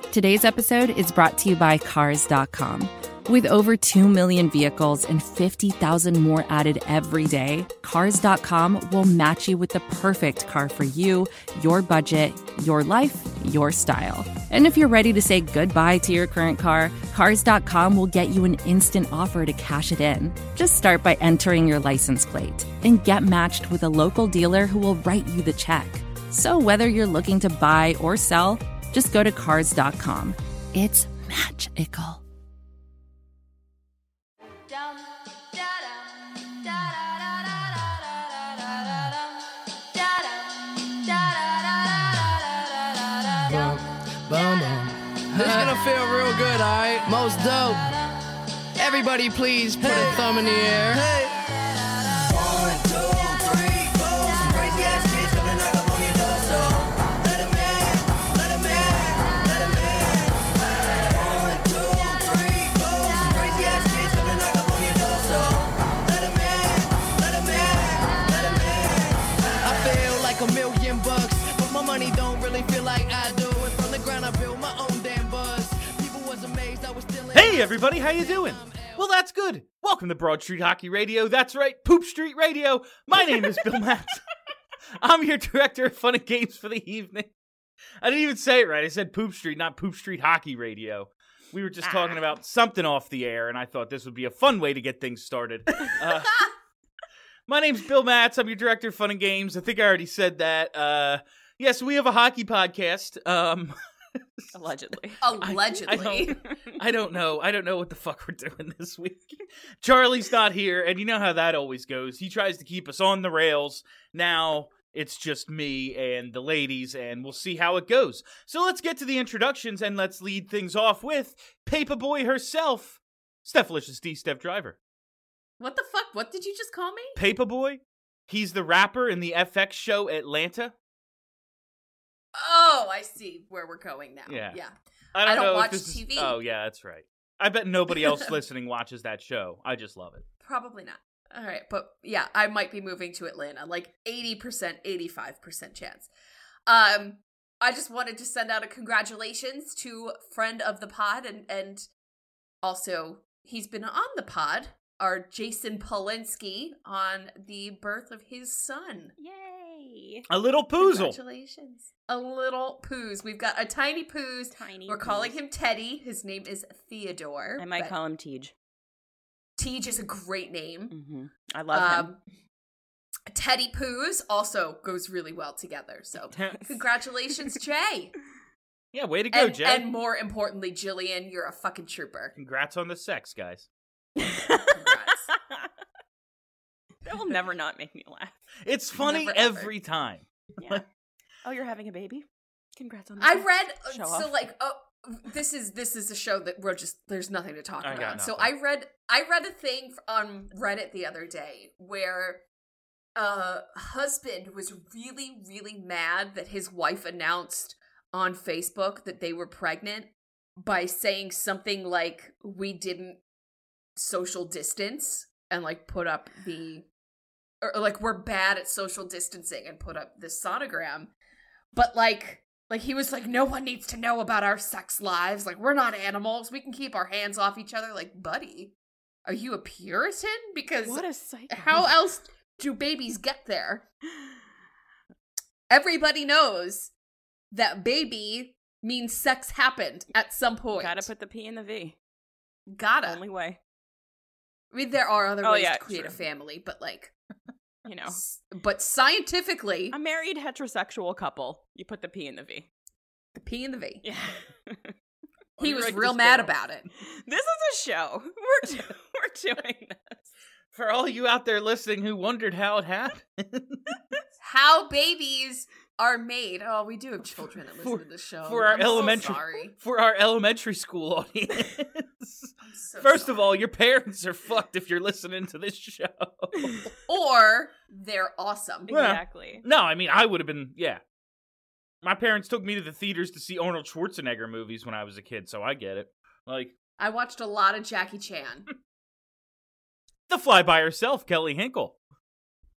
Today's episode is brought to you by Cars.com. With over 2 million vehicles and 50,000 more added every day, Cars.com will match you with the perfect car for you, your budget, your life, your style. And if you're ready to say goodbye to your current car, Cars.com will get you an instant offer to cash it in. Just start by entering your license plate and get matched with a local dealer who will write you the check. So whether you're looking to buy or sell, just go to Cars.com. It's magical. This is gonna feel real good, alright? Most dope. Everybody please put a thumb in the air. Hey. 1, 2, 3, 4. Some crazy ass kids coming knock up on your door, so let 'em in, let 'em in, let 'em in. 1, 2, 3, 4. Some crazy ass kids coming knock up on your door, so let 'em in, let 'em in, let 'em in. I feel like $1,000,000, but my money don't really feel like I do. And from the ground I built my own damn buzz. People was amazed I was still in. Hey everybody, how you doing? Well, that's good. Welcome to Broad Street Hockey Radio. That's right, Poop Street Radio. My name is Bill Matz. I'm your director of fun and games for the evening. I didn't even say it right. I said Poop Street, not Poop Street Hockey Radio. We were just talking about something off the air, and I thought this would be a fun way to get things started. My name's Bill Matz. I'm your director of fun and games. I think I already said that. Yes, we have a hockey podcast. Allegedly. I don't know. I don't know what the fuck we're doing this week. Charlie's not here, and you know how that always goes. He tries to keep us on the rails. Now it's just me and the ladies, and we'll see how it goes. So let's get to the introductions, and let's lead things off with Paperboy herself, Stephalicious D. Steph Driver. What the fuck? What did you just call me? Paperboy? He's the rapper in the FX show Atlanta. Oh, I see where we're going now. Yeah. I don't know watch if this TV. Oh, yeah, that's right. I bet nobody else listening watches that show. I just love it. Probably not. All right, but yeah, I might be moving to Atlanta, like 80%, 85% chance. I just wanted to send out a congratulations to friend of the pod, and also he's been on the pod, our Jason Polinsky, on the birth of his son. Yay! A little poozle. Congratulations. A little poos. We've got a tiny poos. We're calling him Teddy. His name is Theodore. I might call him Tej. Tej is a great name. Mm-hmm. I love him. Teddy Poos also goes really well together. So congratulations, Jay. Yeah, way to go, Jay. And more importantly, Jillian, you're a fucking trooper. Congrats on the sex, guys. Congrats. That will never not make me laugh. It's funny Never, every time. Yeah. Oh, you're having a baby? Congrats on that. I read Show so off. like this is a show that we're just there's nothing to talk I got about. nothing. So I read a thing on Reddit the other day where a husband was really, really mad that his wife announced on Facebook that they were pregnant by saying something like, "We didn't social distance," and like put up or like, "We're bad at social distancing," and put up this sonogram. But like he was like, "No one needs to know about our sex lives. Like, we're not animals. We can keep our hands off each other." Like, buddy, are you a Puritan? Because What a psycho. how else do babies get there? Everybody knows that baby means sex happened at some point. Gotta put the P in the V. Gotta. Only way. I mean, there are other Oh, ways yeah, to create a sure. family, but like, You know. but scientifically, A married heterosexual couple. You put the P in the V. the P and the V. Yeah. He you was write real this mad down? about it. This is a show. We're doing this. For all you out there listening who wondered how it happened. How babies are made. Oh, we do have children that listen to this show. For our I'm so elementary sorry. for our elementary school audience. I'm so First sorry. of all, your parents are fucked if you're listening to this show. Or they're awesome. Well, Exactly. No, I mean, I would have been, yeah. My parents took me to the theaters to see Arnold Schwarzenegger movies when I was a kid, so I get it. Like, I watched a lot of Jackie Chan. the fly by herself, Kelly Hinkle.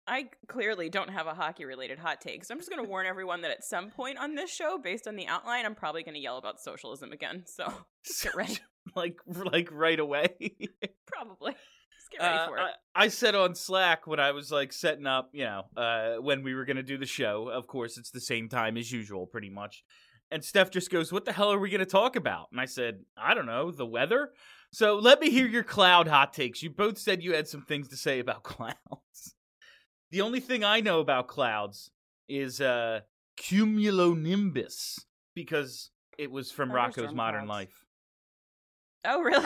I clearly don't have a hockey-related hot take, so I'm just going to warn everyone that at some point on this show, based on the outline, I'm probably going to yell about socialism again, so just get ready. like right away. Probably. Just get ready for it. I said on Slack when I was like setting up, when we were going to do the show, of course, it's the same time as usual, pretty much. And Steph just goes, what the hell are we going to talk about? And I said, I don't know, the weather? So let me hear your cloud hot takes. You both said you had some things to say about clouds. The only thing I know about clouds is cumulonimbus, because it was from Rocco's Modern Life. Oh, really?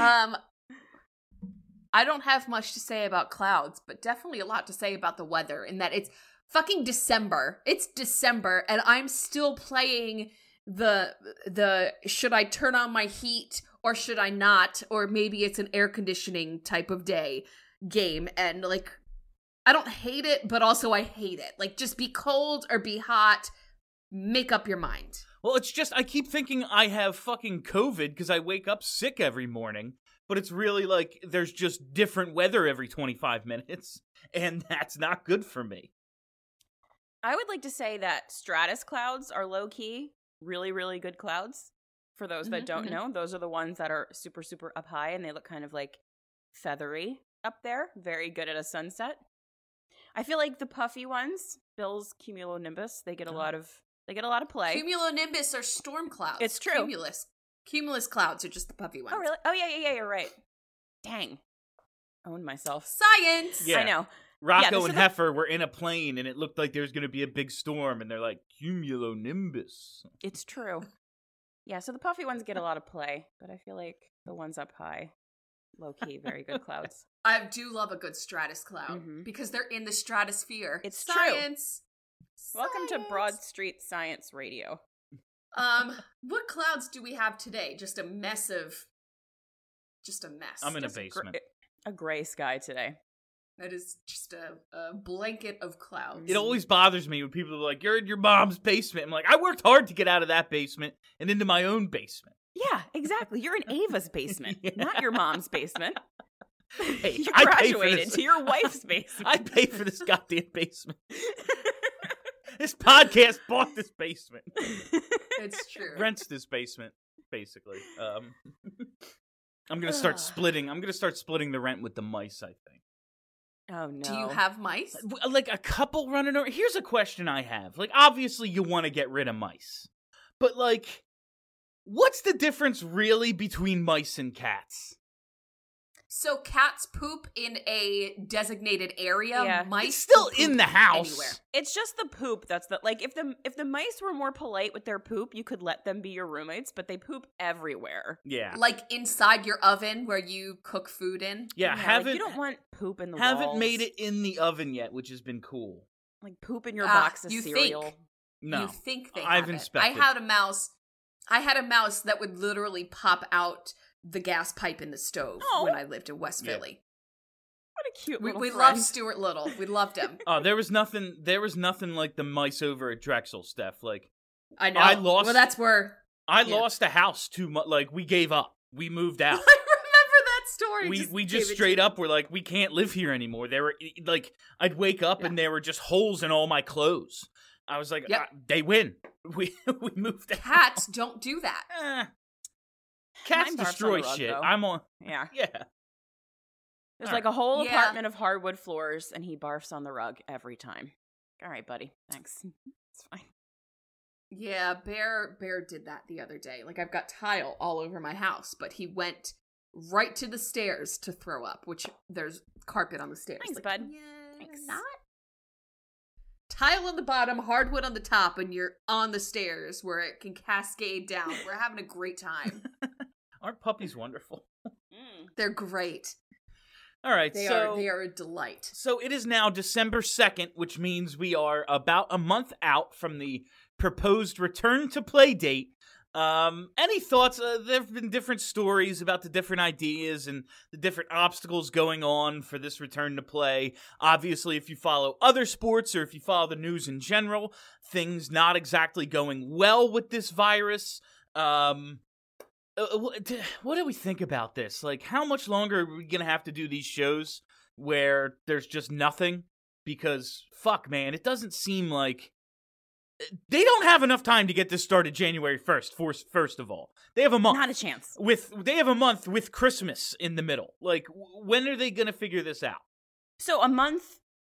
I don't have much to say about clouds, but definitely a lot to say about the weather, in that it's fucking December. It's December, and I'm still playing the should I turn on my heat or should I not, or maybe it's an air conditioning type of day game, and like I don't hate it, but also I hate it. Like, just be cold or be hot. Make up your mind. Well, it's just, I keep thinking I have fucking COVID because I wake up sick every morning, but it's really like there's just different weather every 25 minutes, and that's not good for me. I would like to say that stratus clouds are low-key really, really good clouds. For those that don't know, those are the ones that are super, super up high, and they look kind of like feathery up there. Very good at a sunset. I feel like the puffy ones, Bill's cumulonimbus, they get a lot of play. Cumulonimbus are storm clouds. It's true. Cumulus clouds are just the puffy ones. Oh, really? Oh, yeah, you're right. Dang. Owned myself. Science! Yeah. I know. Rocco and Heifer were in a plane, and it looked like there was going to be a big storm, and they're like, cumulonimbus. It's true. Yeah, so the puffy ones get a lot of play, but I feel like the ones up high, low-key, very good clouds. I do love a good stratus cloud, because they're in the stratosphere. It's Science! True. Welcome to Broad Street Science Radio. What clouds do we have today? Just a mess. I'm in a basement. A gray sky today. That is just a blanket of clouds. It always bothers me when people are like, you're in your mom's basement. I'm like, I worked hard to get out of that basement and into my own basement. Yeah, exactly. You're in Ava's basement, not your mom's basement. Hey, you graduated to your wife's basement. I pay for this goddamn basement. This podcast bought this basement. It's true. Rents this basement, basically. I'm gonna start splitting. I'm gonna start splitting the rent with the mice, I think. Oh no. Do you have mice? Like a couple running over. Here's a question I have. Like, obviously you want to get rid of mice. But like, what's the difference really between mice and cats? So cats poop in a designated area. Yeah. Mice It's still poop in the house. anywhere. It's just the poop that's the like if the mice were more polite with their poop, you could let them be your roommates, but they poop everywhere. Yeah. Like inside your oven where you cook food in. Yeah, Like, you don't want poop in the haven't walls. made it in the oven yet, which has been cool. Like poop in your box of you cereal. think. No. You think they I've have it. inspected. I had a mouse that would literally pop out the gas pipe in the stove when I lived in West Philly. What a cute We little loved friend. Stuart Little. We loved him. Oh, there was nothing like the mice over at Drexel, Steph. Like, I know. I lost- Well, that's where I lost a house too much. Like, we gave up. We moved out. I remember that story. We just straight up were like, we can't live here anymore. There were like, I'd wake up and there were just holes in all my clothes. I was like, they win. We moved out. Cats don't do that. Cats Mine barfs destroy on the rug, shit. though. I'm on. Yeah. Yeah. There's like a whole Yeah. apartment of hardwood floors, and he barfs on the rug every time. All right, buddy. Thanks. It's fine. Yeah, Bear did that the other day. Like, I've got tile all over my house, but he went right to the stairs to throw up, which there's carpet on the stairs. Thanks, like, bud. Yeah, Thanks. not. Tile on the bottom, hardwood on the top, and you're on the stairs where it can cascade down. We're having a great time. Aren't puppies wonderful? They're great. All right, They so are a delight. So it is now December 2nd, which means we are about a month out from the proposed return to play date. Any thoughts? There have been different stories about the different ideas and the different obstacles going on for this return to play. Obviously, if you follow other sports or if you follow the news in general, things not exactly going well with this virus. What do we think about this? Like, how much longer are we going to have to do these shows where there's just nothing? because fuck, man, it doesn't seem like they don't have enough time to get this started January 1st. First of all, they have a month. Not a chance. They have a month with Christmas in the middle. Like, when are they going to figure this out? So a month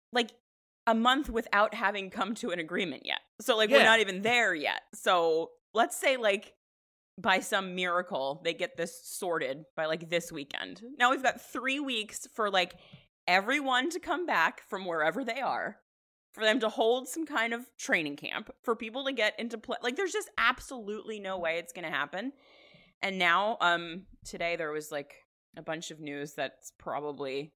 without having come to an agreement yet. So like, Yeah. we're not even there yet. So let's say like by some miracle they get this sorted by like this weekend. Now we've got 3 weeks for like everyone to come back from wherever they are, for them to hold some kind of training camp, for people to get into play. Like, there's just absolutely no way it's going to happen. And now, today there was like a bunch of news that's probably,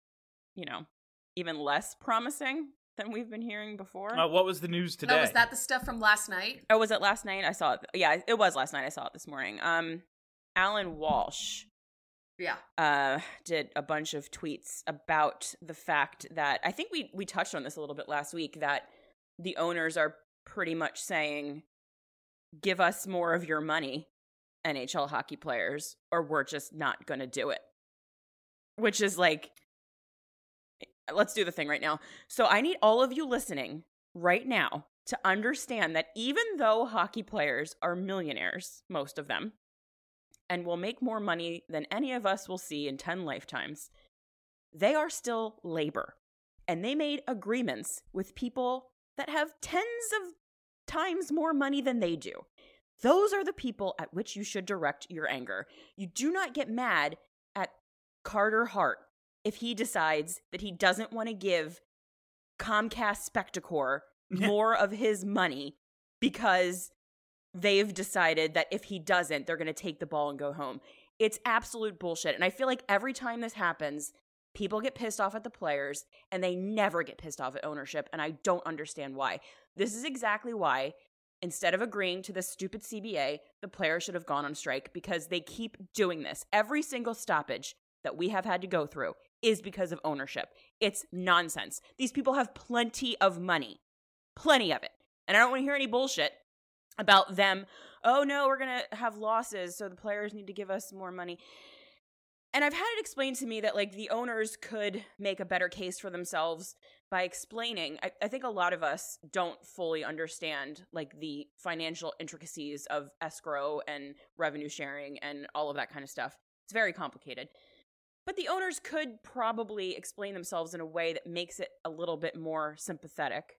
even less promising than we've been hearing before. What was the news today? No, was that the stuff from last night? Oh, was it last night? I saw it. Yeah, it was last night. I saw it this morning. Alan Walsh did a bunch of tweets about the fact that, I think we touched on this a little bit last week, that the owners are pretty much saying, give us more of your money, NHL hockey players, or we're just not going to do it. Which is like, let's do the thing right now. So I need all of you listening right now to understand that even though hockey players are millionaires, most of them, and will make more money than any of us will see in 10 lifetimes, they are still labor. And they made agreements with people that have tens of times more money than they do. Those are the people at which you should direct your anger. You do not get mad at Carter Hart if he decides that he doesn't want to give Comcast Spectacor more of his money because they've decided that if he doesn't, they're going to take the ball and go home. It's absolute bullshit. And I feel like every time this happens, people get pissed off at the players and they never get pissed off at ownership. And I don't understand why. This is exactly why, instead of agreeing to this stupid CBA, the players should have gone on strike, because they keep doing this. Every single stoppage that we have had to go through is because of ownership. It's nonsense. These people have plenty of money. Plenty of it. And I don't want to hear any bullshit about them. Oh no, we're going to have losses, so the players need to give us more money. And I've had it explained to me that like the owners could make a better case for themselves by explaining. I think a lot of us don't fully understand like the financial intricacies of escrow and revenue sharing and all of that kind of stuff. It's very complicated. But the owners could probably explain themselves in a way that makes it a little bit more sympathetic.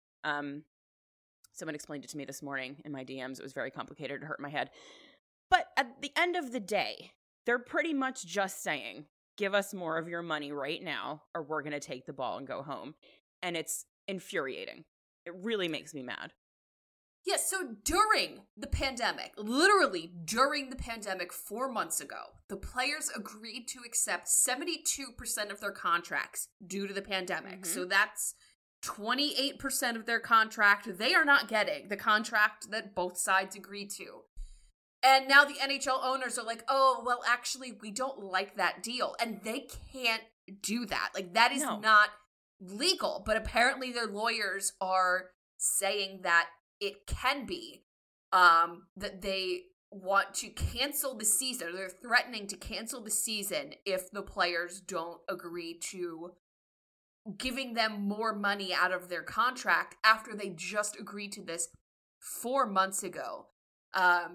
Someone explained it to me this morning in my DMs. It was very complicated. It hurt my head. But at the end of the day, they're pretty much just saying, give us more of your money right now, or we're going to take the ball and go home. And it's infuriating. It really makes me mad. Yes, so during the pandemic, literally during the pandemic 4 months ago, the players agreed to accept 72% of their contracts due to the pandemic. Mm-hmm. So that's 28% of their contract they are not getting, the contract that both sides agreed to. And now the NHL owners are like, oh, well, actually, we don't like that deal. And they can't do that. Like, that is not legal. But apparently their lawyers are saying that it can be, that they want to cancel the season. They're threatening to cancel the season if the players don't agree to giving them more money out of their contract after they just agreed to this 4 months ago. I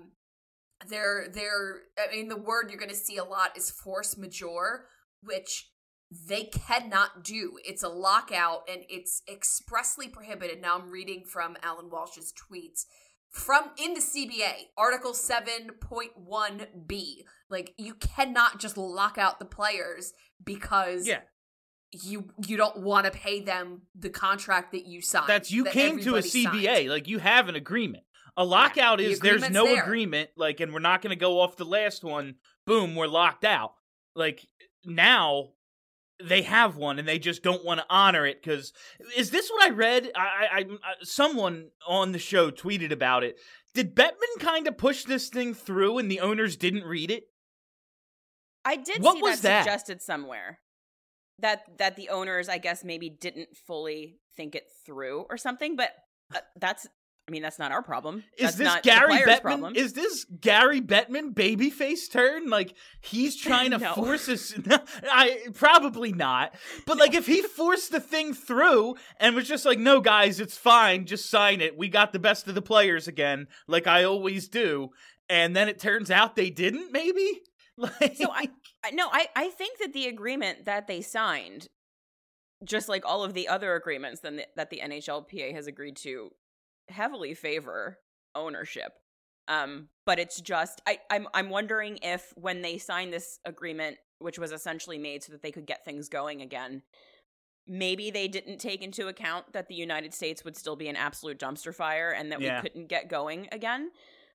mean, the word you're going to see a lot is force majeure, which they cannot do. It's a lockout, and it's expressly prohibited. Now I'm reading from Alan Walsh's tweets. In the CBA, Article 7.1b. Like, you cannot just lock out the players because you don't want to pay them the contract that you signed. You came to a CBA. Signed. Like, you have an agreement. A lockout is there's no agreement, like, and we're not going to go off the last one. Boom, we're locked out. Like, now they have one, and they just don't want to honor it, because is this what I read? Someone on the show tweeted about it. Did Bettman kind of push this thing through, and the owners didn't read it? I did see that suggested somewhere. That the owners, I guess, maybe didn't fully think it through or something, but I mean, that's not our problem. Is That's this not Gary the players' Bettman? problem. Is this Gary Bettman babyface turn? Like, he's trying to No. force his... probably not. But, like, if he forced the thing through and was just like, no, guys, it's fine, just sign it. We got the best of the players again, like I always do. And then it turns out they didn't, maybe? Like... So I think that the agreement that they signed, just like all of the other agreements that the NHLPA has agreed to, heavily favor ownership. But it's just I'm wondering if when they signed this agreement, which was essentially made so that they could get things going again, maybe they didn't take into account that the United States would still be an absolute dumpster fire and that we couldn't get going again.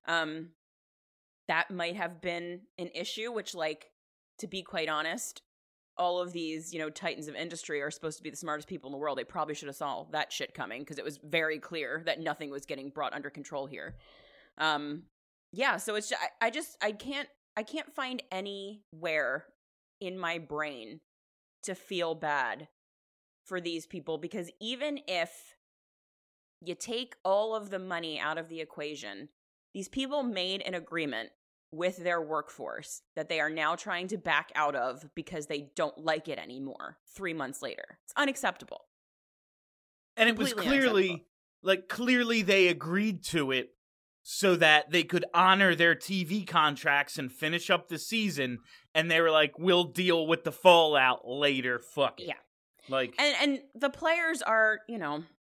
That might have been an issue, which, like, to be quite honest, all of these, you know, titans of industry are supposed to be the smartest people in the world. They probably should have saw that shit coming because it was very clear that nothing was getting brought under control here. Yeah, so it's just, I can't find anywhere in my brain to feel bad for these people, because even if you take all of the money out of the equation, these people made an agreement with their workforce that they are now trying to back out of because they don't like it anymore 3 months later. It's unacceptable. And it was clearly they agreed to it so that they could honor their TV contracts and finish up the season. And they were like, we'll deal with the fallout later. Fuck it. Yeah. Like, and the players are, you know,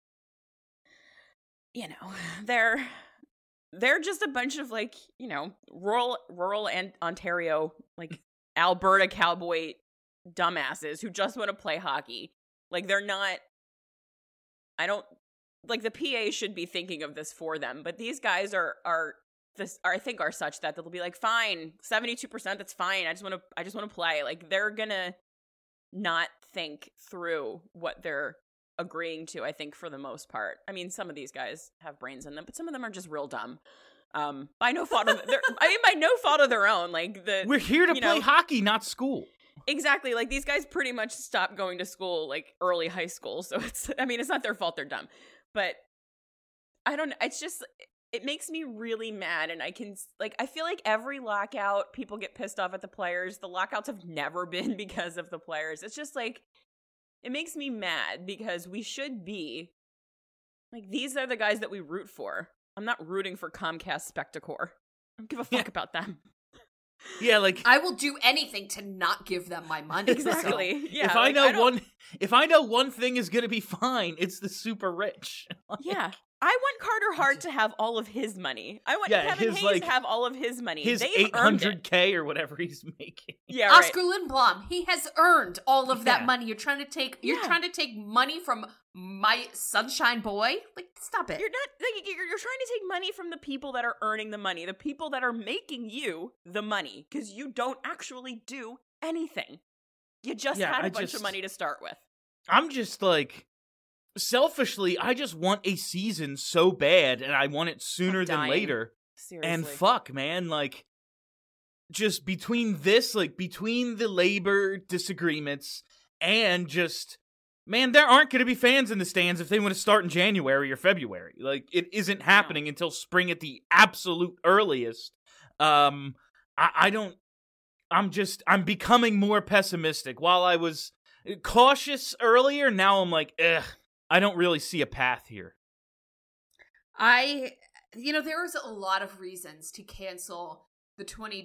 they're just a bunch of, like, you know, rural and Ontario, like, Alberta cowboy dumbasses who just want to play hockey. Like, they're not, like, the PA should be thinking of this for them, but these guys I think are such that they'll be like, fine, 72%, that's fine. I just want to play. Like, they're gonna not think through what they're agreeing to, I think, for the most part. I mean, some of these guys have brains in them, but some of them are just real dumb. By no fault of their own. Like, we're here to play hockey, not school. Exactly. Like, these guys pretty much stopped going to school, like, early high school. So it's not their fault they're dumb. But I don't know. It's just, it makes me really mad. And I feel like every lockout, people get pissed off at the players. The lockouts have never been because of the players. It's just like, it makes me mad because we should be, like, these are the guys that we root for. I'm not rooting for Comcast Spectacor. I don't give a fuck about them. Yeah, like, I will do anything to not give them my money. Exactly. So. Yeah. If I know one thing is gonna be fine, it's the super rich. Like, yeah. I want Carter Hart to have all of his money. I want Kevin Hayes to have all of his money. His They've earned it. $800K or whatever he's making. Yeah, right. Oscar Lindblom, he has earned all of that money. You're trying to take money from my sunshine boy? Like, stop it. You're not, like, you're trying to take money from the people that are earning the money, the people that are making you the money, because you don't actually do anything. You just had a bunch of money to start with. I'm just like, selfishly, I just want a season so bad, and I want it sooner than later. Seriously. And fuck, man, like, just between the labor disagreements and just, man, there aren't going to be fans in the stands if they want to start in January or February. Like, it isn't happening until spring at the absolute earliest. I'm becoming more pessimistic. While I was cautious earlier, now I'm like, I don't really see a path here. There's a lot of reasons to cancel the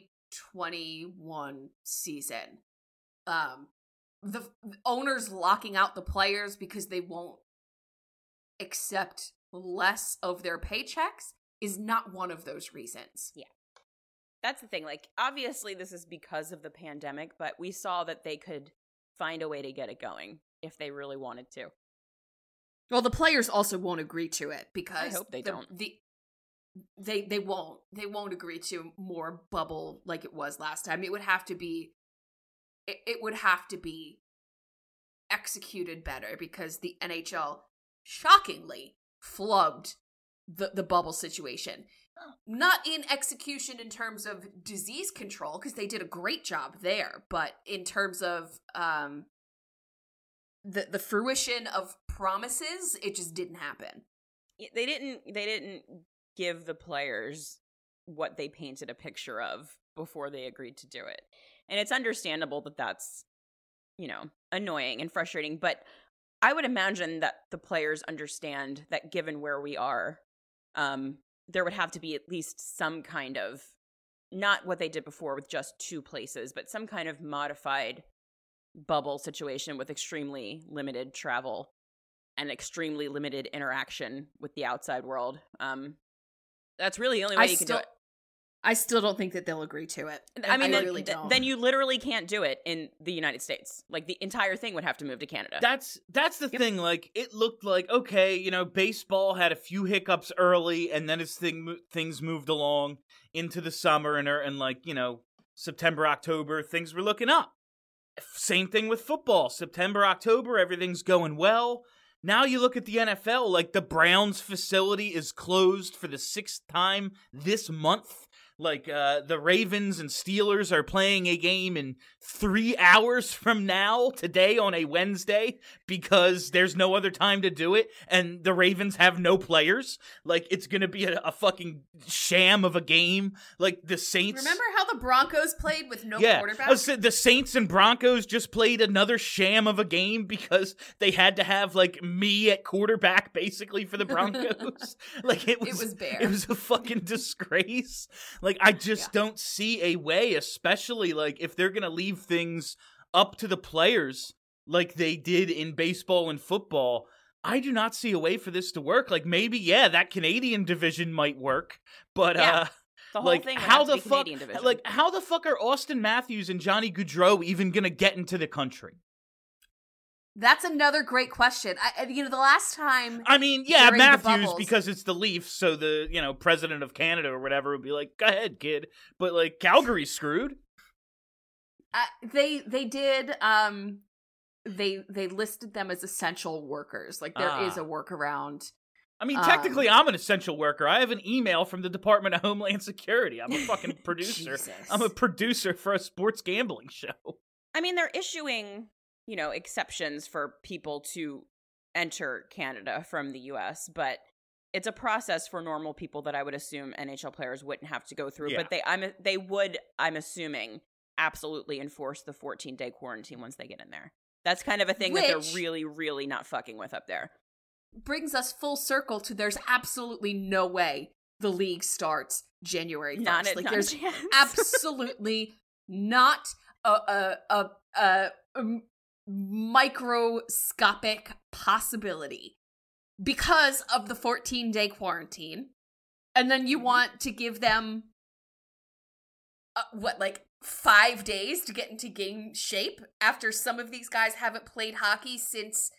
2021 season. The owners locking out the players because they won't accept less of their paychecks is not one of those reasons. Yeah. That's the thing. Like, obviously this is because of the pandemic, but we saw that they could find a way to get it going if they really wanted to. Well, the players also won't agree to it because I hope they don't. They won't agree to more bubble like it was last time. It would have to be executed better because the NHL shockingly flubbed the bubble situation. Not in execution in terms of disease control, because they did a great job there, but in terms of the fruition of promises, it just didn't happen. they didn't give the players what they painted a picture of before they agreed to do it. And it's understandable that that's, annoying and frustrating, but I would imagine that the players understand that given where we are, there would have to be at least some kind of, not what they did before with just 2 places, but some kind of modified bubble situation with extremely limited travel and extremely limited interaction with the outside world. That's really the only way you can do it. I still don't think that they'll agree to it. I mean, then you literally can't do it in the United States. Like, the entire thing would have to move to Canada. That's the thing. Like, it looked like, okay, baseball had a few hiccups early, and then as things moved along into the summer and like, September, October, things were looking up. Same thing with football. September, October, everything's going well. Now you look at the NFL, like the Browns facility is closed for the 6th time this month. Like, the Ravens and Steelers are playing a game in 3 hours from now, today on a Wednesday, because there's no other time to do it, and the Ravens have no players. Like, it's gonna be a fucking sham of a game. Like, the Saints... Remember how the Broncos played with no quarterback? The Saints and Broncos just played another sham of a game because they had to have, like, me at quarterback, basically, for the Broncos. Like, it was bad. It was a fucking disgrace. Like, I just don't see a way, especially, like, if they're gonna leave things up to the players like they did in baseball and football, I do not see a way for this to work. Like, maybe, that Canadian division might work, but, the whole like, thing how the fuck, Canadian division. like, how the fuck are Austin Matthews and Johnny Gaudreau even gonna get into the country? That's another great question. The last time... I mean, Matthews, because it's the Leafs, so the, president of Canada or whatever would be like, go ahead, kid. But, like, Calgary's screwed. They did, they listed them as essential workers. Like, there is a workaround. I mean, technically, I'm an essential worker. I have an email from the Department of Homeland Security. I'm a fucking producer. I'm a producer for a sports gambling show. I mean, they're issuing... exceptions for people to enter Canada from the US, but it's a process for normal people that I would assume NHL players wouldn't have to go through. Yeah. But they would, I'm assuming, absolutely enforce the 14-day quarantine once they get in there. That's kind of a thing that they're really, really not fucking with up there. Brings us full circle to there's absolutely no way the league starts January 1st. There's absolutely not a microscopic possibility because of the 14-day quarantine, and then you want to give them 5 days to get into game shape after some of these guys haven't played hockey since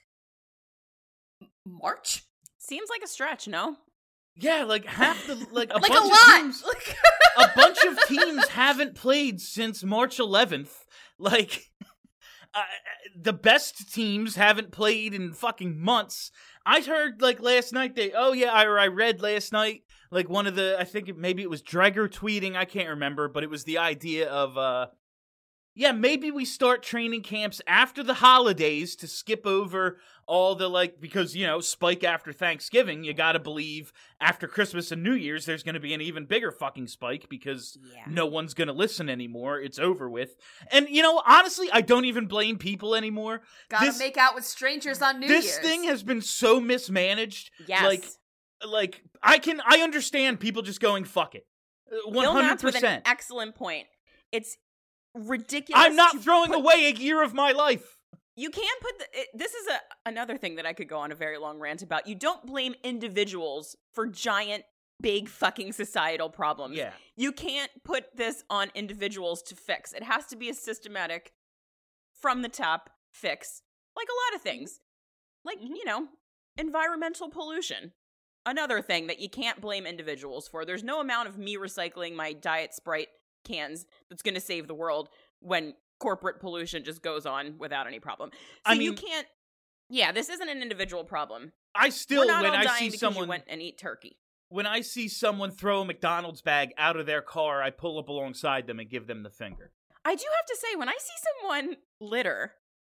March? Seems like a stretch, no? Yeah, like half the a bunch of teams, a bunch of teams haven't played since March 11th. Like, the best teams haven't played in fucking months. I heard, like, last night, I read last night, like, one of the, I think maybe it was Dreger tweeting, I can't remember, but it was the idea of, maybe we start training camps after the holidays to skip over all the, like, because, spike after Thanksgiving, you gotta believe after Christmas and New Year's, there's gonna be an even bigger fucking spike because no one's gonna listen anymore. It's over with. And, honestly, I don't even blame people anymore. Gotta make out with strangers on New Year's. This thing has been so mismanaged. Yes. Like, I understand people just going, fuck it. 100%. Bill Matz with an excellent point. It's ridiculous. I'm not throwing away a year of my life. You can't put this is another thing that I could go on a very long rant about. You don't blame individuals for giant, big fucking societal problems. Yeah. You can't put this on individuals to fix. It has to be a systematic, from the top fix. Like a lot of things. Like, environmental pollution. Another thing that you can't blame individuals for. There's no amount of me recycling my Diet Sprite cans that's going to save the world when corporate pollution just goes on without any problem. So you can't. Yeah, this isn't an individual problem. I still, when I see someone went and eat turkey. When I see someone throw a McDonald's bag out of their car, I pull up alongside them and give them the finger. I do have to say, when I see someone litter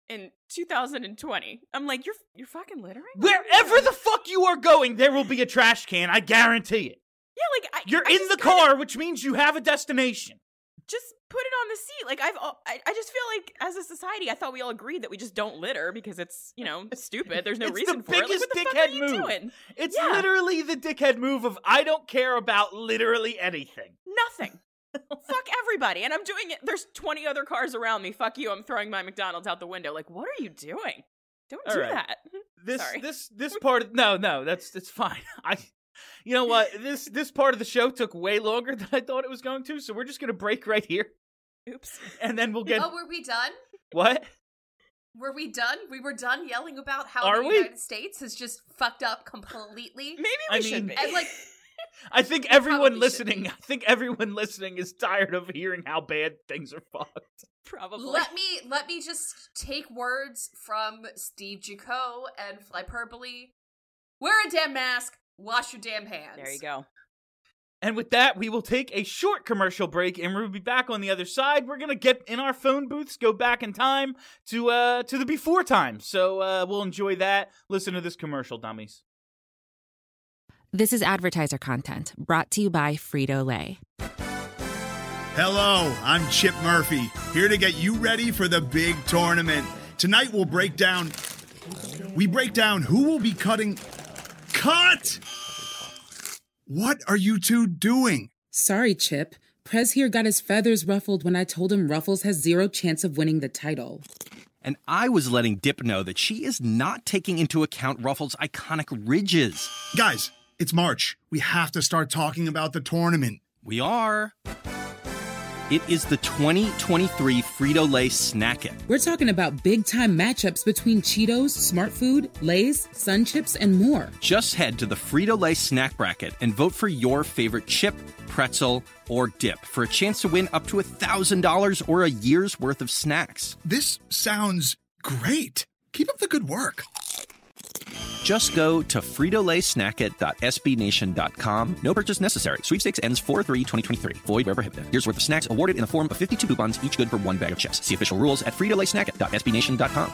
in 2020. I'm like, you're fucking littering? Wherever the fuck you are going, there will be a trash can. I guarantee it. Yeah, like You're I in the car, which means you have a destination. just put it on the seat. Like I just feel like as a society, I thought we all agreed that we just don't litter because it's, stupid. There's no It's reason the for it. Like, biggest what the fuck dickhead are you move. doing? It's Yeah. literally the dickhead move of I don't care about literally anything. Nothing. Fuck everybody. And I'm doing it. There's 20 other cars around me. Fuck you. I'm throwing my McDonald's out the window. Like, what are you doing? Don't All do right. that. Sorry. This part of, no, that's fine. You know what? This part of the show took way longer than I thought it was going to, so we're just gonna break right here, Oops. and then we'll get. Oh, were we done? What? Were we done? We were done yelling about how Are the we? United States has just fucked up completely. Maybe I we should mean- be. And like, I think probably everyone should listening. be. I think everyone listening is tired of hearing how bad things are fucked. Probably. let me just take words from Steve Jaco and Flyperbole. Wear a damn mask. Wash your damn hands. There you go. And with that, we will take a short commercial break, and we'll be back on the other side. We're gonna get in our phone booths, go back in time to the before time. So we'll enjoy that. Listen to this commercial, dummies. This is advertiser content brought to you by Frito-Lay. Hello, I'm Chip Murphy, here to get you ready for the big tournament. Tonight we'll break down who will be cutting. Cut! What are you two doing? Sorry, Chip. Prez here got his feathers ruffled when I told him Ruffles has zero chance of winning the title. And I was letting Dip know that she is not taking into account Ruffles' iconic ridges. Guys, it's March. We have to start talking about the tournament. We are. It is the 2023 Frito-Lay Snack It. We're talking about big-time matchups between Cheetos, Smart Food, Lay's, Sun Chips, and more. Just head to the Frito-Lay Snack Bracket and vote for your favorite chip, pretzel, or dip for a chance to win up to $1,000 or a year's worth of snacks. This sounds great. Keep up the good work. Just go to fritolaysnackit.sbnation.com. No purchase necessary. Sweepstakes ends 4/3/2023. Void where prohibited. Here's worth of snacks awarded in the form of 52 coupons, each good for one bag of chips. See official rules at fritolaysnackit.sbnation.com.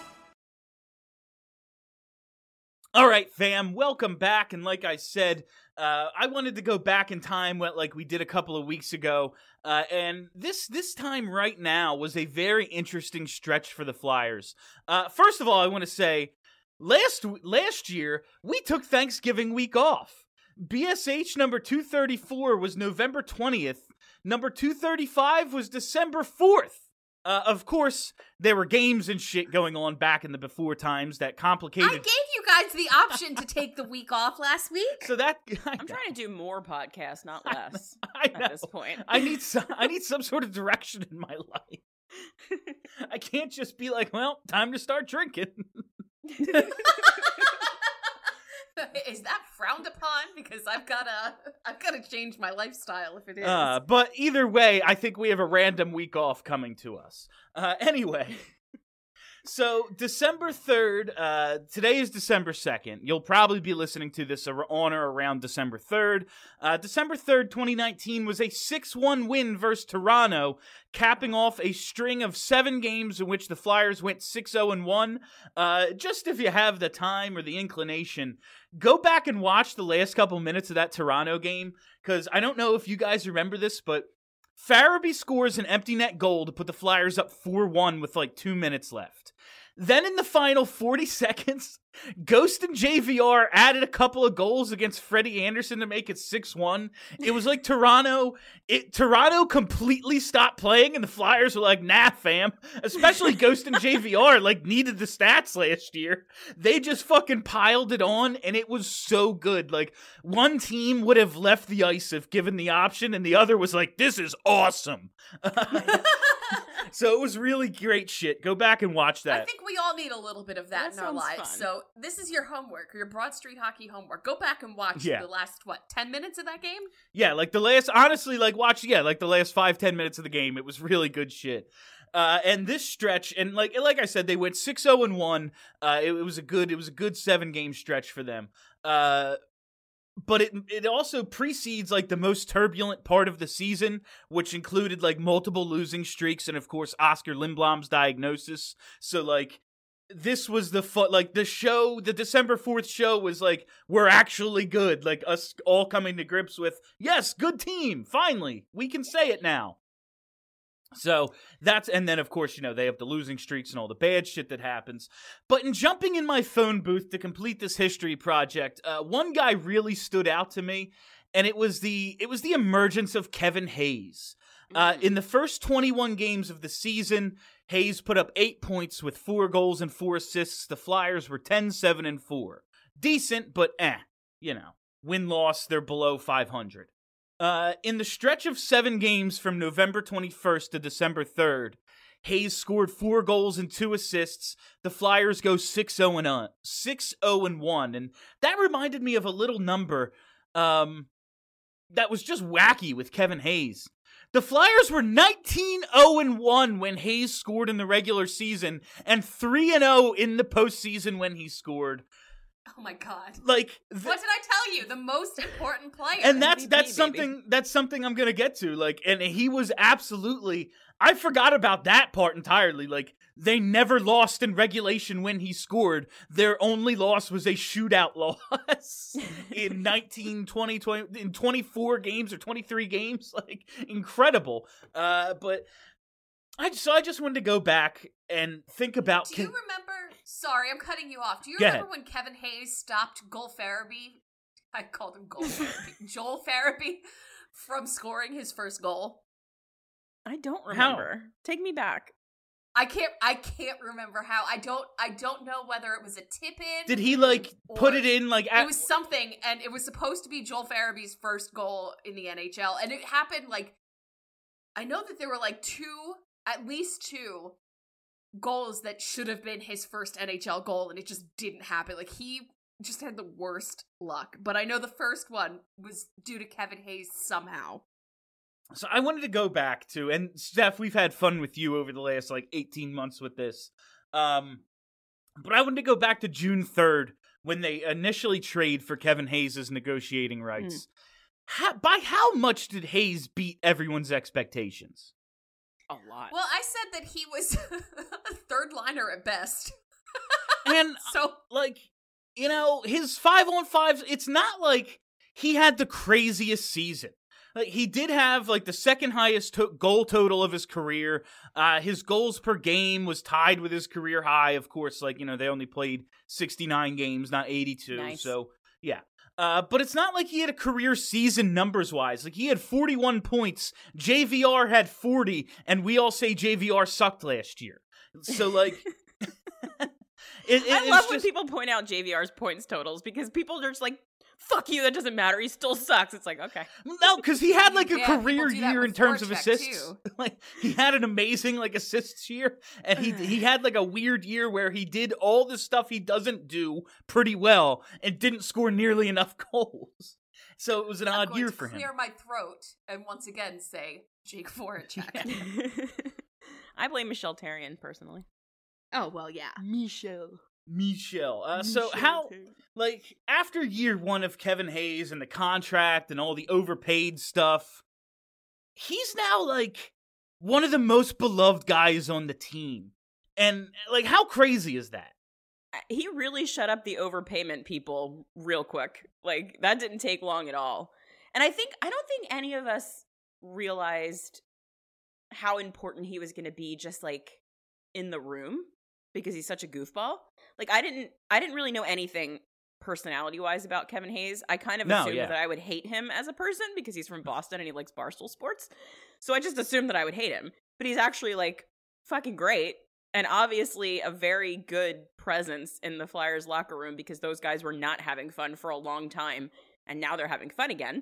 All right, fam, welcome back. And like I said, I wanted to go back in time, like we did a couple of weeks ago. And this time right now was a very interesting stretch for the Flyers. First of all, I want to say, last year, we took Thanksgiving week off. BSH number 234 was November 20th. Number 235 was December 4th. Of course, there were games and shit going on back in the before times that complicated. I gave you guys the option to take the week off last week. So that I'm trying to do more podcasts, not less. I know. At this point. I need some sort of direction in my life. I can't just be like, well, time to start drinking. Is that frowned upon? Because I've gotta change my lifestyle if it is. But either way, I think we have a random week off coming to us. Anyway, so December 3rd, today is December 2nd. You'll probably be listening to this on or around December 3rd. December 3rd, 2019 was a 6-1 win versus Toronto, capping off a string of 7 games in which the Flyers went 6-0-1. Just if you have the time or the inclination, go back and watch the last couple minutes of that Toronto game, because I don't know if you guys remember this, but Farabee scores an empty net goal to put the Flyers up 4-1 with like 2 minutes left. Then in the final 40 seconds, Ghost and JVR added a couple of goals against Freddie Anderson to make it 6-1. It was like Toronto completely stopped playing, and the Flyers were like, nah, fam. Especially Ghost and JVR, like, needed the stats last year. They just fucking piled it on, and it was so good. Like, one team would have left the ice if given the option, and the other was like, this is awesome. So it was really great shit. Go back and watch that. I think we all need a little bit of that in our sounds lives. fun. So this is your homework, your Broad Street Hockey homework. Go back and watch the last, 10 minutes of that game? Yeah, like the last, honestly, like watch, like the last 5-10 minutes of the game. It was really good shit. And this stretch, and like I said, they went 6-0-1. It was a good 7-game stretch for them. But it also precedes like the most turbulent part of the season, which included like multiple losing streaks and of course Oscar Lindblom's diagnosis. So like this was the the December 4th show was like, we're actually good. Like us all coming to grips with, yes, good team. Finally, we can say it now. So and then of course, they have the losing streaks and all the bad shit that happens. But in jumping in my phone booth to complete this history project, one guy really stood out to me, and it was the emergence of Kevin Hayes. In the first 21 games of the season, Hayes put up 8 points with 4 goals and 4 assists. The Flyers were 10-7-4. Decent, but win-loss, they're below 500. In the stretch of 7 games from November 21st to December 3rd, Hayes scored 4 goals and 2 assists. The Flyers go 6-0-1, and that reminded me of a little number that was just wacky with Kevin Hayes. The Flyers were 19-0-1 when Hayes scored in the regular season, and 3-0 in the postseason when he scored. Oh my God! Like, what did I tell you? The most important player, and that's something I'm gonna get to. Like, and he was absolutely. I forgot about that part entirely. Like, they never lost in regulation when he scored. Their only loss was a shootout loss in 24 games or 23 games. Like, incredible. But I just wanted to go back and think about. Do you remember? Sorry, I'm cutting you off. Do you Go remember ahead. when Kevin Hayes stopped Joel Farabee? I called him Joel Farabee from scoring his first goal. I don't remember. Take me back. I can't remember how. I don't know whether it was a tip in. Did he put it in it was something, and it was supposed to be Joel Farabee's first goal in the NHL, and it happened I know that there were at least 2 goals that should have been his first NHL goal, and it just didn't happen. He just had the worst luck. But I know the first one was due to Kevin Hayes somehow. So I wanted to go back to, and Steph, we've had fun with you over the last 18 months with this. But I wanted to go back to June 3rd when they initially trade for Kevin Hayes' negotiating rights. By how much did Hayes beat everyone's expectations? A lot. Well, I said that he was a third liner at best. And so, his 5-on-5s, it's not like he had the craziest season. He did have the second highest goal total of his career. His goals per game was tied with his career high. Of course, they only played 69 games, not 82. Nice. So, yeah. But it's not like he had a career season numbers-wise. He had 41 points. JVR had 40, and we all say JVR sucked last year. So, I love when just... people point out JVR's points totals, because people are just fuck you, that doesn't matter, he still sucks. It's okay. No, because he had a career do that year with in terms of forecheck, assists. He had an amazing assists year, and he had a weird year where he did all the stuff he doesn't do pretty well and didn't score nearly enough goals. So it was an odd year for him. Clear my throat and once again say Jake Voracek. I blame Michelle Therrien personally. Oh well, yeah. Michelle. So how, after year 1 of Kevin Hayes and the contract and all the overpaid stuff, he's now, one of the most beloved guys on the team. And, how crazy is that? He really shut up the overpayment people real quick. That didn't take long at all. And I don't think any of us realized how important he was going to be just, in the room, because he's such a goofball. I didn't really know anything personality-wise about Kevin Hayes. I kind of assumed that I would hate him as a person because he's from Boston and he likes Barstool Sports. So I just assumed that I would hate him. But he's actually, fucking great. And obviously a very good presence in the Flyers locker room, because those guys were not having fun for a long time. And now they're having fun again.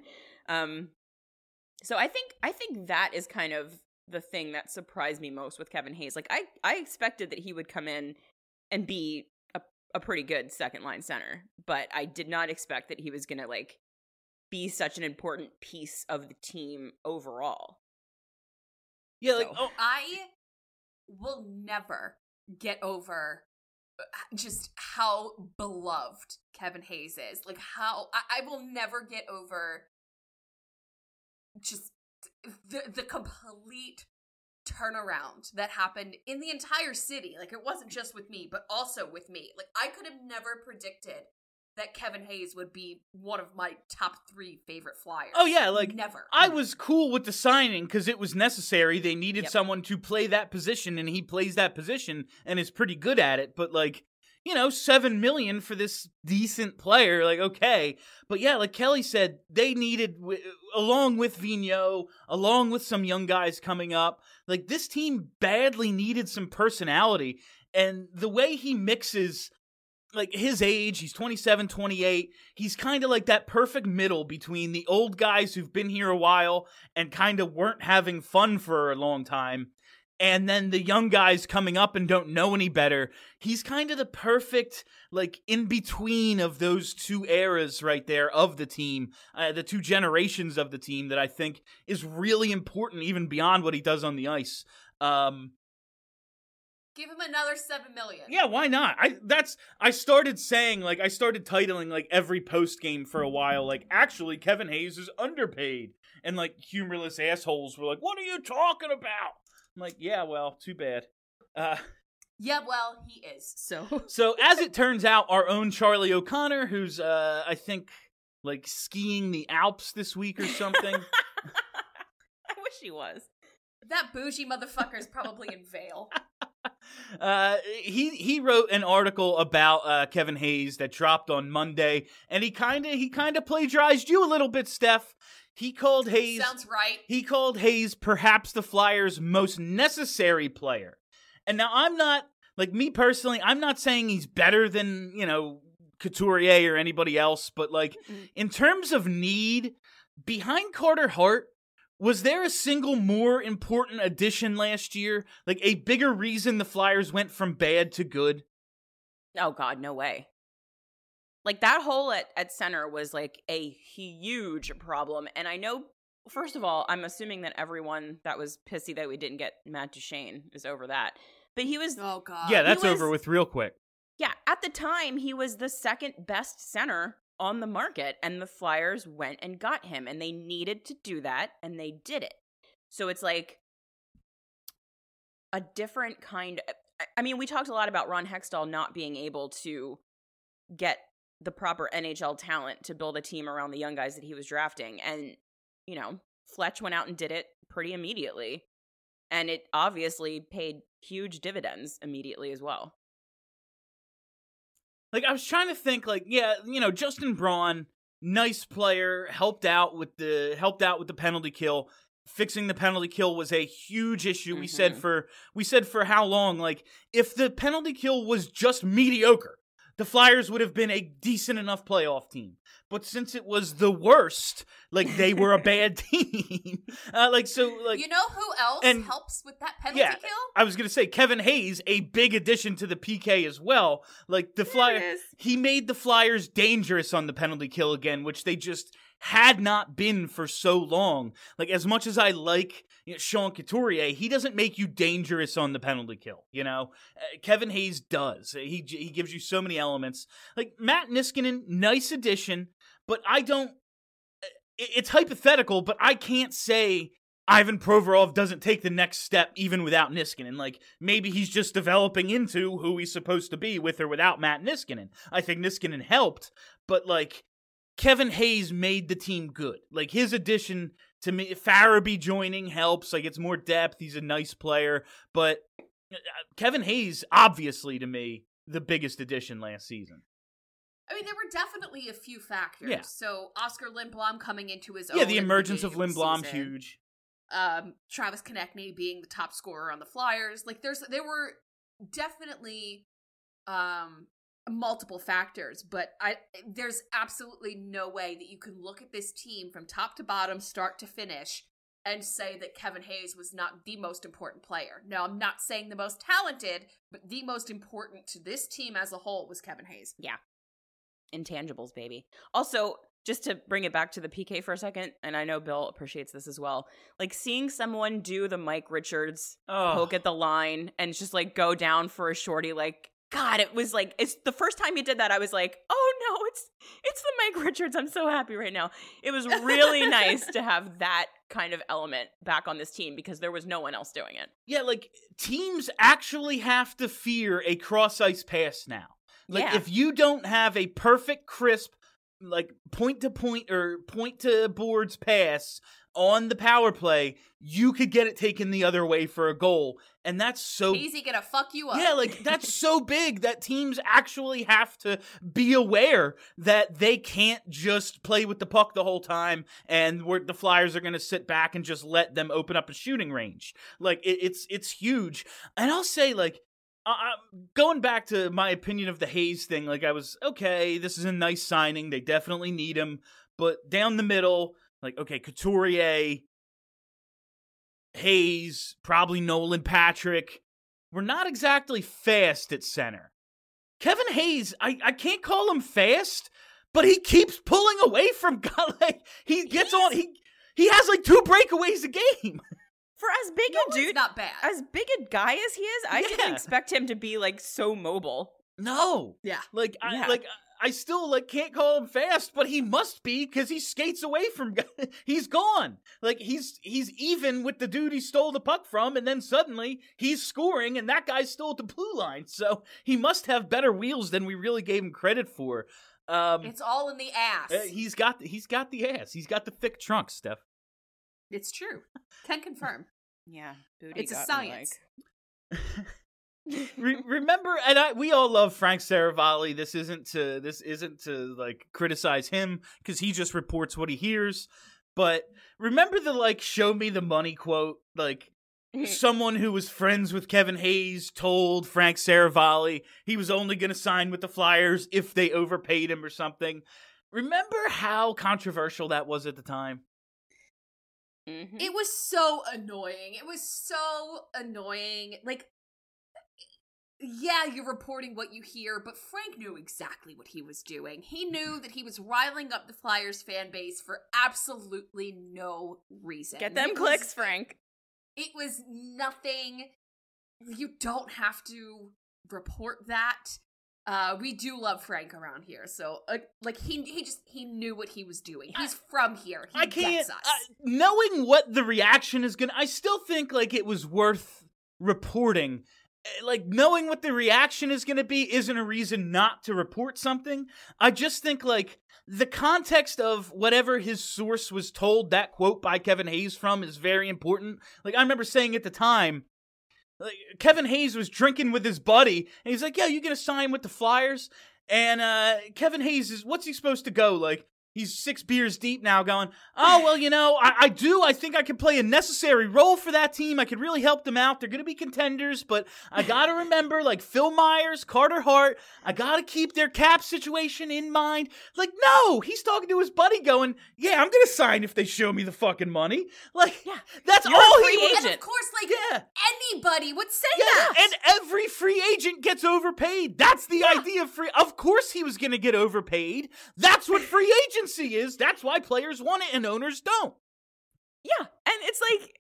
So I think that is kind of the thing that surprised me most with Kevin Hayes. I expected that he would come in and be a pretty good second line center, but I did not expect that he was going to be such an important piece of the team overall. Yeah, I will never get over just how beloved Kevin Hayes is. How I will never get over just the complete turnaround that happened in the entire city. Like, it wasn't just with me, but also with me. Like, I could have never predicted that Kevin Hayes would be one of my top 3 favorite Flyers. Oh yeah, like never. I was cool with the signing because it was necessary. They needed someone to play that position, and he plays that position and is pretty good at it. But like, you know, $7 million for this decent player, like, okay. But yeah, like Kelly said, they needed, along with Vigneault, along with some young guys coming up, like this team badly needed some personality. And the way he mixes, like his age, he's 27, 28, he's kind of like that perfect middle between the old guys who've been here a while and kind of weren't having fun for a long time, and then the young guys coming up and don't know any better. He's kind of the perfect, like, in-between of those two eras right there of the team, the two generations of the team that I think is really important even beyond what he does on the ice. Give him another $7 million. Yeah, why not? I started titling, like, every post-game for a while, like, actually, Kevin Hayes is underpaid. And, like, humorless assholes were like, what are you talking about? I'm like, yeah, well, too bad. Yeah, well, he is, so. So, as it turns out, our own Charlie O'Connor, who's, I think, like, skiing the Alps this week or something. I wish he was. That bougie motherfucker is probably in Vail. He wrote an article about Kevin Hayes that dropped on Monday, and he kind of plagiarized you a little bit, Steph. He called Hayes. Sounds right. He called Hayes perhaps the Flyers' most necessary player. And now I'm not, like, me personally, I'm not saying he's better than, you know, Couturier or anybody else, but like in terms of need, behind Carter Hart, was there a single more important addition last year? Like a bigger reason the Flyers went from bad to good? Oh God, no way. Like that hole at center was like a huge problem. And I know, first of all, I'm assuming that everyone that was pissy that we didn't get Matt Duchene is over that. But he was... Oh God. Yeah, that's over with real quick. Yeah, at the time, he was the second best center on the market, and the Flyers went and got him, and they needed to do that, and they did it. So it's like a different kind of... I mean, we talked a lot about Ron Hextall not being able to get the proper NHL talent to build a team around the young guys that he was drafting. And, you know, Fletch went out and did it pretty immediately. And it obviously paid huge dividends immediately as well. Like, I was trying to think, like, yeah, you know, Justin Braun, nice player, helped out with the penalty kill. Fixing the penalty kill was a huge issue. Mm-hmm. We said for how long, like, if the penalty kill was just mediocre, the Flyers would have been a decent enough playoff team. But since it was the worst, like, they were a bad team. You know who else helps with that penalty kill? I was going to say, Kevin Hayes, a big addition to the PK as well. Like, he made the Flyers dangerous on the penalty kill again, which they just had not been for so long. Like, as much as I like, you know, Sean Couturier, he doesn't make you dangerous on the penalty kill, you know? Kevin Hayes does. He gives you so many elements. Like, Matt Niskanen, nice addition, but I don't... It's hypothetical, but I can't say Ivan Provorov doesn't take the next step even without Niskanen. Like, maybe he's just developing into who he's supposed to be with or without Matt Niskanen. I think Niskanen helped, but, like, Kevin Hayes made the team good. Like, his addition to me, Farabee joining helps. Like, it's more depth. He's a nice player. But Kevin Hayes, obviously, to me, the biggest addition last season. I mean, there were definitely a few factors. Yeah. So, Oscar Lindblom coming into his own. Yeah, the emergence of season. Lindblom, huge. Travis Konechny being the top scorer on the Flyers. Like, there were definitely multiple factors, but there's absolutely no way that you can look at this team from top to bottom, start to finish, and say that Kevin Hayes was not the most important player. Now, I'm not saying the most talented, but the most important to this team as a whole was Kevin Hayes. Yeah. Intangibles, baby. Also, just to bring it back to the PK for a second, and I know Bill appreciates this as well, like seeing someone do the Mike Richards poke at the line and just like go down for a shorty, like God, it was like, it's the first time he did that, I was like, oh no, it's the Mike Richards. I'm so happy right now. It was really nice to have that kind of element back on this team because there was no one else doing it. Yeah, like, teams actually have to fear a cross-ice pass now. Like, if you don't have a perfect, crisp, like, point-to-point or point-to-boards pass on the power play, you could get it taken the other way for a goal. And that's so easy gonna fuck you up. Yeah, like, that's so big that teams actually have to be aware that they can't just play with the puck the whole time and the Flyers are gonna sit back and just let them open up a shooting range. Like, it's huge. And I'll say, like, going back to my opinion of the Hayes thing, like, I was, okay, this is a nice signing. They definitely need him. But down the middle, like, okay, Couturier, Hayes, probably Nolan Patrick. We're not exactly fast at center. Kevin Hayes, I can't call him fast, but he keeps pulling away from guys. Like, he gets on, he has like 2 breakaways a game. For as big a dude, not bad. As big a guy as he is, I didn't expect him to be like so mobile. No. Yeah. Like, I still, like, can't call him fast, but he must be because he skates away from guys. He's gone. Like, he's even with the dude he stole the puck from, and then suddenly he's scoring, and that guy's still at the blue line. So he must have better wheels than we really gave him credit for. It's all in the ass. He's got the ass. He's got the thick trunk, Steph. It's true. Can confirm. Yeah. Booty It's a got me, science. like. Remember, and we all love Frank Saravalli. This isn't to like criticize him because he just reports what he hears. But remember the like "show me the money" quote? Like, someone who was friends with Kevin Hayes told Frank Saravalli he was only going to sign with the Flyers if they overpaid him or something. Remember how controversial that was at the time? Mm-hmm. It was so annoying. Like, yeah, you're reporting what you hear, but Frank knew exactly what he was doing. He knew that he was riling up the Flyers fan base for absolutely no reason. Get them clicks, Frank. It was nothing. You don't have to report that. We do love Frank around here, so like he knew what he was doing. He's from here. He gets us. Knowing what the reaction is gonna, I still think like it was worth reporting. Like, knowing what the reaction is going to be isn't a reason not to report something. I just think, like, the context of whatever his source was told that quote by Kevin Hayes from is very important. Like, I remember saying at the time, like, Kevin Hayes was drinking with his buddy, and he's like, yeah, you going to sign with the Flyers? And Kevin Hayes what's he supposed to go, like, he's 6 beers deep now going, oh, well, you know, I think I could play a necessary role for that team. I could really help them out. They're going to be contenders, but I got to remember, like, Phil Myers, Carter Hart, I got to keep their cap situation in mind. Like, no, he's talking to his buddy going, yeah, I'm going to sign if they show me the fucking money. Like, yeah, that's You're all a free he was. agent. And of course, like, Yeah. anybody would say Yeah, that. and every free agent gets overpaid. That's the idea of free. Of course he was going to get overpaid. That's what free agency is. That's why players want it and owners don't. Yeah, and it's like,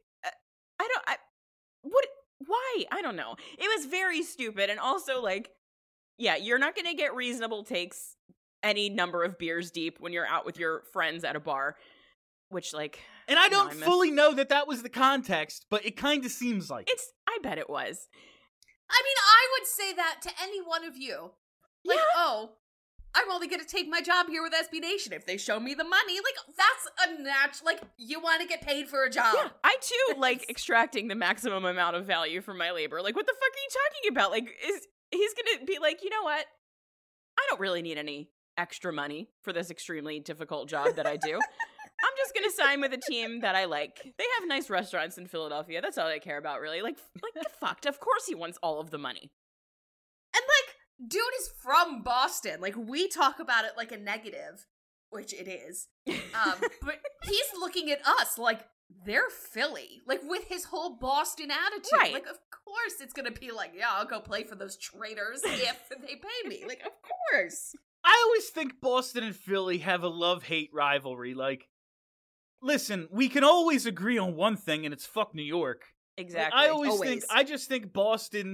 why? I don't know. It was very stupid, and also, like, yeah, you're not going to get reasonable takes any number of beers deep when you're out with your friends at a bar, which, like... And I don't fully know that was the context, but it kind of seems like I bet it was. I mean, I would say that to any one of you. Like, oh, I'm only going to take my job here with SB Nation if they show me the money. Like, that's a natural, like, you want to get paid for a job. Yeah, I too like extracting the maximum amount of value from my labor. Like, what the fuck are you talking about? Like, he's going to be like, you know what? I don't really need any extra money for this extremely difficult job that I do. I'm just going to sign with a team that I like. They have nice restaurants in Philadelphia. That's all I care about, really. Like get fucked. Of course he wants all of the money. And, like, dude is from Boston. Like, we talk about it like a negative, which it is. But he's looking at us like they're Philly. Like, with his whole Boston attitude. Right. Like, of course it's going to be like, yeah, I'll go play for those traitors if they pay me. Like, of course. I always think Boston and Philly have a love-hate rivalry. Like, listen, we can always agree on one thing, and it's fuck New York. Exactly. Like, I just think Boston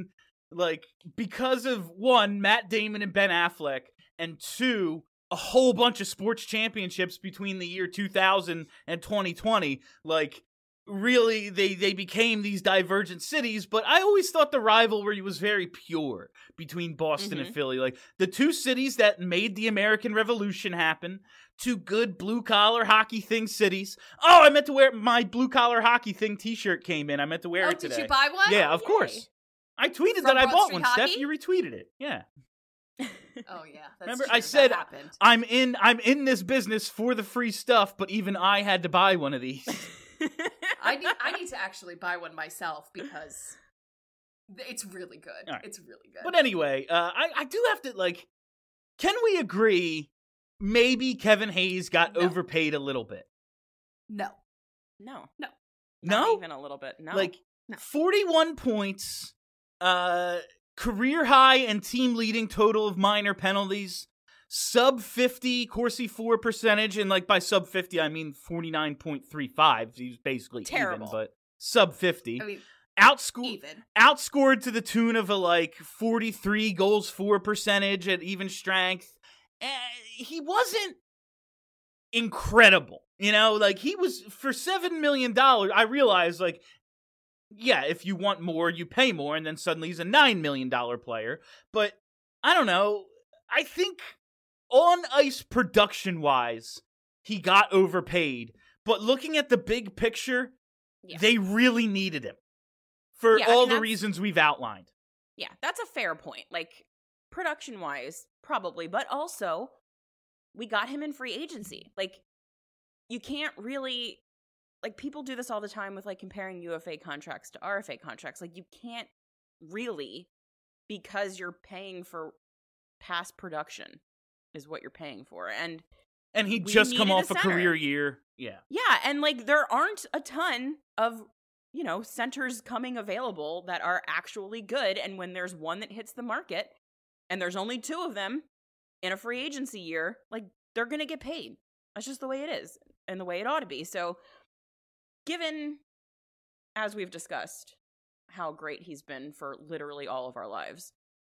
like, because of, one, Matt Damon and Ben Affleck, and two, a whole bunch of sports championships between the year 2000 and 2020, like, really, they became these divergent cities, but I always thought the rivalry was very pure between Boston and Philly. Like, the two cities that made the American Revolution happen, two good blue-collar hockey thing cities. Oh, I meant to wear my blue-collar hockey thing t-shirt came in. I meant to wear it today. Did you buy one? Yeah, of course. I tweeted From that I Broad bought Street one, Hockey? Steph. You retweeted it. Yeah. Oh yeah. That's Remember, true. I said that happened. I'm in this business for the free stuff, but even I had to buy one of these. I need to actually buy one myself because it's really good. All right. It's really good. But anyway, I do have to, like, can we agree maybe Kevin Hayes got No. overpaid a little bit? No. No. Not even a little bit. No. Like, No. 41 points, career high and team leading total of minor penalties, sub 50 Corsi 4 percentage, and like by sub 50 I mean 49.35. He's basically Terrible. even, but sub 50. I mean, Outscored even. to the tune of a like 43 goals for percentage at even strength. He wasn't incredible, you know, like he was for $7 million. I realized, like, yeah, if you want more, you pay more, and then suddenly he's a $9 million player. But I don't know. I think on ice production wise, he got overpaid. But looking at the big picture, they really needed him for all the reasons we've outlined. Yeah, that's a fair point. Like, production-wise, probably, but also, we got him in free agency. Like, you can't really, like, people do this all the time with, like, comparing UFA contracts to RFA contracts. Like, you can't really, because you're paying for past production is what you're paying for. And he'd we just come needed off a center. career year. Yeah. Yeah, and, like, there aren't a ton of, you know, centers coming available that are actually good. And when there's one that hits the market, and there's only two of them in a free agency year, like, they're going to get paid. That's just the way it is and the way it ought to be. So, given, as we've discussed, how great he's been for literally all of our lives,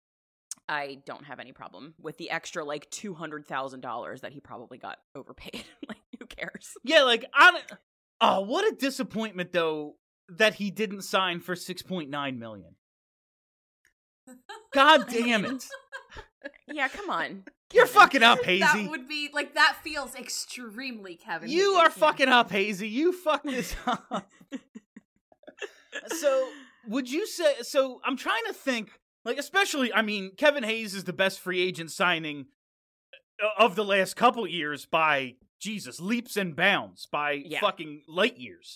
I don't have any problem with the extra, like, $200,000 that he probably got overpaid. Like, who cares? Yeah, like, what a disappointment, though, that he didn't sign for $6.9 million. God damn it. Yeah, come on. You're fucking up, Hazy. That would be, like, that feels extremely Kevin You Hayes. are fucking up, Hazy. You fucked this up. So, would you say, so I'm trying to think, like, especially, I mean, Kevin Hayes is the best free agent signing of the last couple years by, Jesus, leaps and bounds, by fucking light years.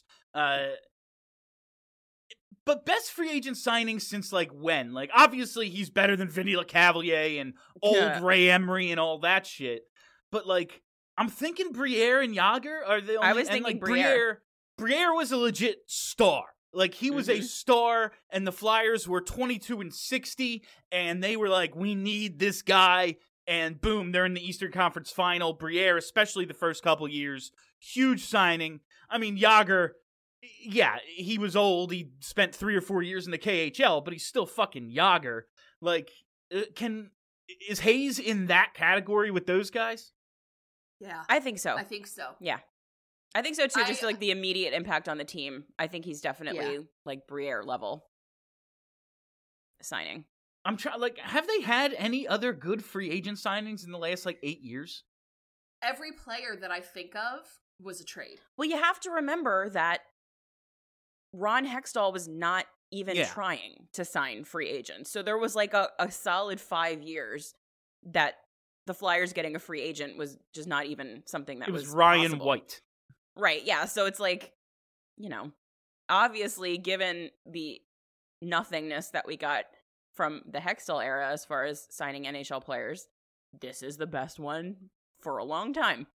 But best free agent signing since, like, when? Like, obviously he's better than Vinny LeCavalier and old Ray Emery and all that shit. But, like, I'm thinking Briere and Yager are the only... I was thinking Briere. Briere was a legit star. Like, he was a star, and the Flyers were 22-60, and they were like, we need this guy, and boom, they're in the Eastern Conference Final. Briere, especially the first couple years, huge signing. I mean, Yager... Yeah, he was old. He spent 3 or 4 years in the KHL, but he's still fucking Yager. Like, is Hayes in that category with those guys? Yeah. I think so. I think so. Yeah. I think so, too. Just, like, the immediate impact on the team. I think he's definitely, like, Briere level signing. I'm trying, like, have they had any other good free agent signings in the last, like, 8 years? Every player that I think of was a trade. Well, you have to remember that Ron Hextall was not even trying to sign free agents. So there was like a solid 5 years that the Flyers getting a free agent was just not even something that was Ryan possible. White. Right, yeah. So it's like, you know, obviously given the nothingness that we got from the Hextall era as far as signing NHL players, this is the best one for a long time.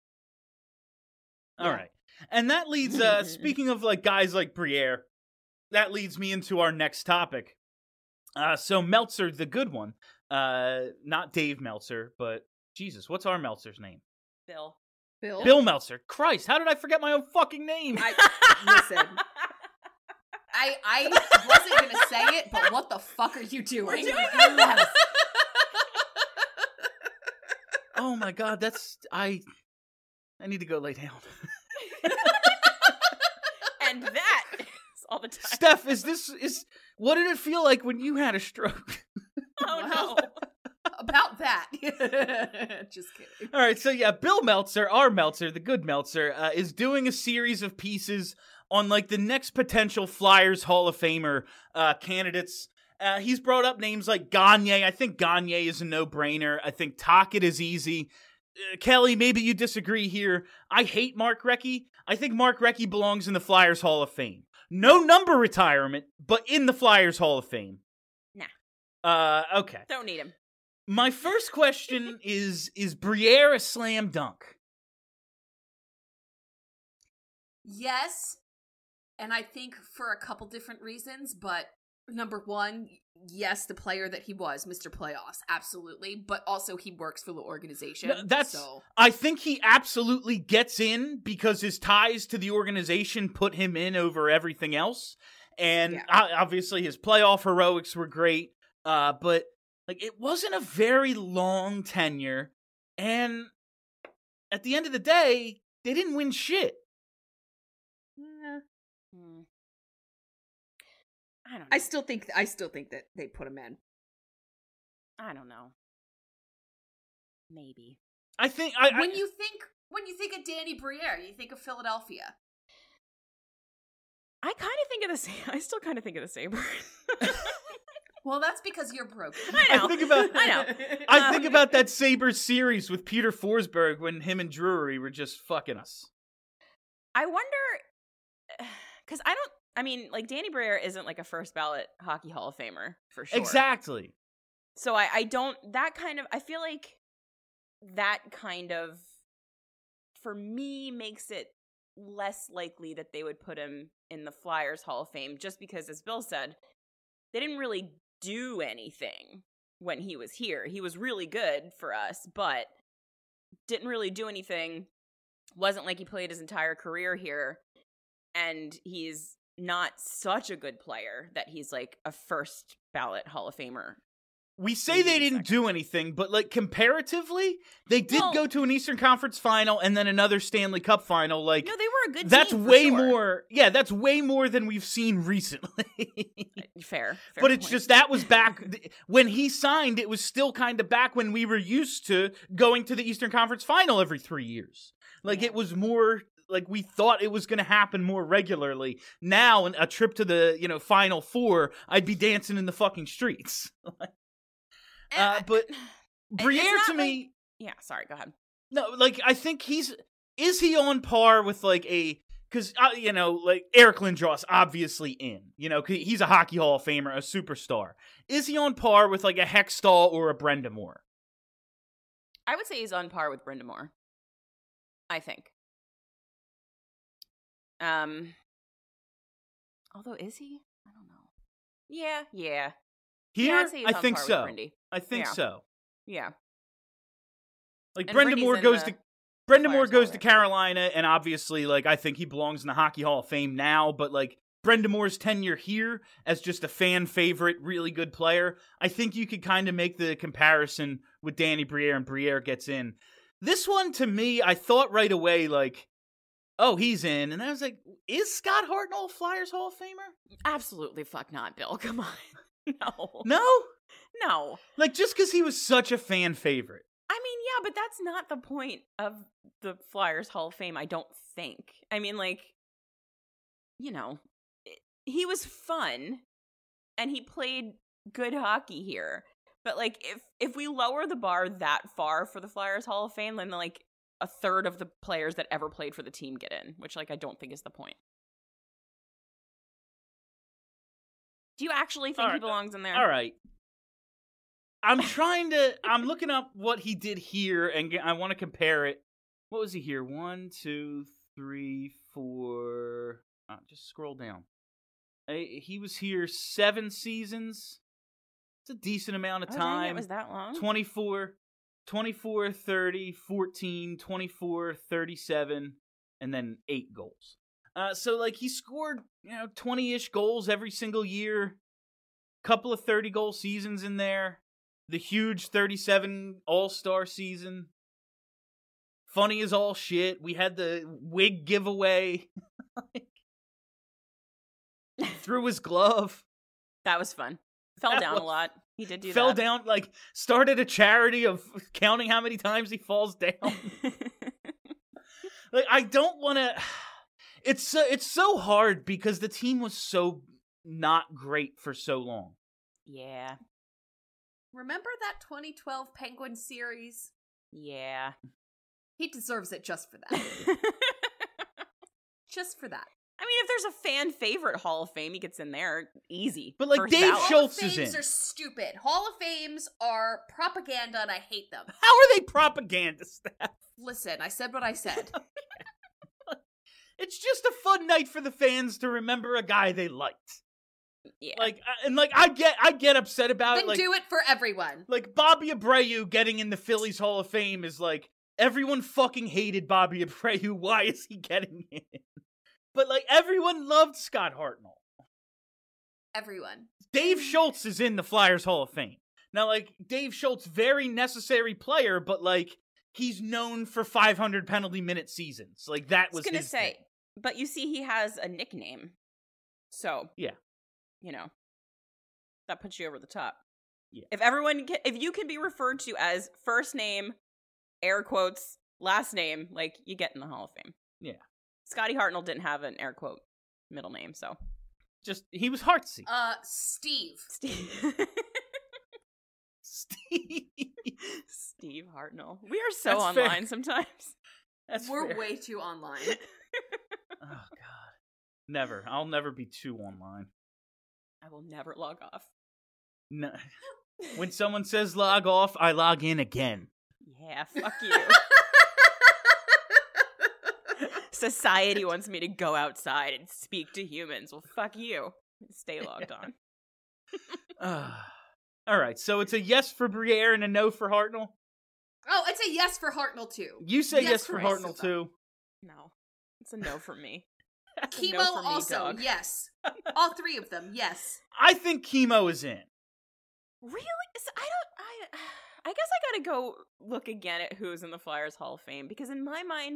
All right. And that leads, speaking of, like, guys like Briere, that leads me into our next topic. So Meltzer, the good one, not Dave Meltzer, but Jesus, what's our Meltzer's name? Bill. Bill Meltzer. Christ, how did I forget my own fucking name? Listen. I wasn't gonna say it, but what the fuck are you doing? We're doing this. Oh my god, that's I need to go lay down. And that is all the time. Steph, is what did it feel like when you had a stroke? Oh no. About that. Just kidding. All right, so yeah, Bill Meltzer, our Meltzer, the good Meltzer, is doing a series of pieces on like the next potential Flyers Hall of Famer candidates. He's brought up names like Gagne. I think Gagne is a no-brainer. I think Tocchet is easy. Kelly, maybe you disagree here. I hate Mark Recchi. I think Mark Recchi belongs in the Flyers Hall of Fame. No number retirement, but in the Flyers Hall of Fame. Nah. Okay. Don't need him. My first question is Briere a slam dunk? Yes, and I think for a couple different reasons, but number one, yes, the player that he was, Mr. Playoffs, absolutely, but also he works for the organization. I think he absolutely gets in because his ties to the organization put him in over everything else, and obviously his playoff heroics were great, but like it wasn't a very long tenure, and at the end of the day, they didn't win shit. I don't know. I still think that they put him in. I don't know. Maybe. I think when you think of Danny Briere, you think of Philadelphia. I still kind of think of the Sabres. Well, that's because you're broken. I know. I think about that Sabres series with Peter Forsberg when him and Drury were just fucking us. I wonder, because like Danny Briere isn't like a first ballot Hockey Hall of Famer for sure. Exactly. So I feel like that kind of, for me, makes it less likely that they would put him in the Flyers Hall of Fame, just because, as Bill said, they didn't really do anything when he was here. He was really good for us, but didn't really do anything. Wasn't like he played his entire career here, and he's not such a good player that he's like a first ballot Hall of Famer. We say they didn't do anything, but like comparatively, they did go to an Eastern Conference final and then another Stanley Cup final. Like, no, they were a good that's team. Way more. Yeah, that's way more than we've seen recently. Fair but it's just that was back when he signed. It was still kind of back when we were used to going to the Eastern Conference final every 3 years. Like it was more. Like we thought it was going to happen more regularly. Now, a trip to the Final Four, I'd be dancing in the fucking streets. But Briere to me, sorry, go ahead. No, like I think is he on par with like because like Eric Lindros obviously in, 'cause he's a Hockey Hall of Famer, a superstar. Is he on par with like a Hextall or a Brind'Amour? I would say he's on par with Brind'Amour. I think. Although is he? I don't know. Yeah. Here, yeah, I think so. I think so. Yeah. Like Brind'Amour goes to Carolina, and obviously, like I think he belongs in the Hockey Hall of Fame now. But like Brind'Amour's tenure here as just a fan favorite, really good player, I think you could kind of make the comparison with Danny Briere, and Briere gets in. This one to me, I thought right away like, oh, he's in, and I was like, is Scott Hartnell a Flyers Hall of Famer? Absolutely, fuck not, Bill. Come on. No. Like, just because he was such a fan favorite. I mean, yeah, but that's not the point of the Flyers Hall of Fame, I don't think. I mean, like, he was fun, and he played good hockey here. But, like, if we lower the bar that far for the Flyers Hall of Fame, then, like, a third of the players that ever played for the team get in, which, like, I don't think is the point. Do you actually think he belongs in there? All right. I'm looking up what he did here, and I want to compare it. What was he here? 1, 2, 3, 4. Just scroll down. He was here 7 seasons. It's a decent amount of time. It was that long? 24, 30, 14, 24, 37, and then 8 goals. So like he scored, 20-ish goals every single year. Couple of 30-goal seasons in there. The huge 37 All-Star season. Funny as all shit. We had the wig giveaway. Threw his glove. That was fun. Fell down a lot. He did do that. Fell down, started a charity of counting how many times he falls down. I don't want to... It's so hard because the team was so not great for so long. Yeah. Remember that 2012 Penguin series? Yeah. He deserves it just for that. Just for that. I mean, if there's a fan favorite Hall of Fame, he gets in there easy. But First Dave ballot. Schultz Hall of is in. Fames are stupid. Hall of Fames are propaganda and I hate them. How are they propaganda, Steph? Listen, I said what I said. It's just a fun night for the fans to remember a guy they liked. Yeah. I get upset about Then it. do it for everyone. Like Bobby Abreu getting in the Phillies Hall of Fame is like, everyone fucking hated Bobby Abreu. Why is he getting in? But everyone loved Scott Hartnell. Everyone. Dave Schultz is in the Flyers Hall of Fame. Now, Dave Schultz, very necessary player, but he's known for 500 penalty minute seasons. That was his thing. But you see, he has a nickname. So, yeah. That puts you over the top. Yeah. If you can be referred to as first name, air quotes, last name, you get in the Hall of Fame. Yeah. Scotty Hartnell didn't have an air quote middle name, so. He was Heartsy. Steve. Steve Hartnell. We are so That's online fair. sometimes. We're fair. way too online. Oh, God. Never. I'll never be too online. I will never log off. No. When someone says log off, I log in again. Yeah, fuck you. Society wants me to go outside and speak to humans. Well, fuck you. Stay logged on. All right, so it's a yes for Briere and a no for Hartnell? Oh, it's a yes for Hartnell, too. You say yes for for Hartnell, us. too? No. It's a no for me. Chemo No for me, also, dog. yes. All three of them, yes. I think Chemo is in. Really? I guess I gotta go look again at who's in the Flyers Hall of Fame, because in my mind,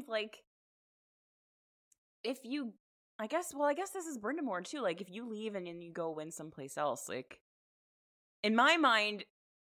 I guess this is Brind'Amour too, if you leave and then you go win someplace else, in my mind,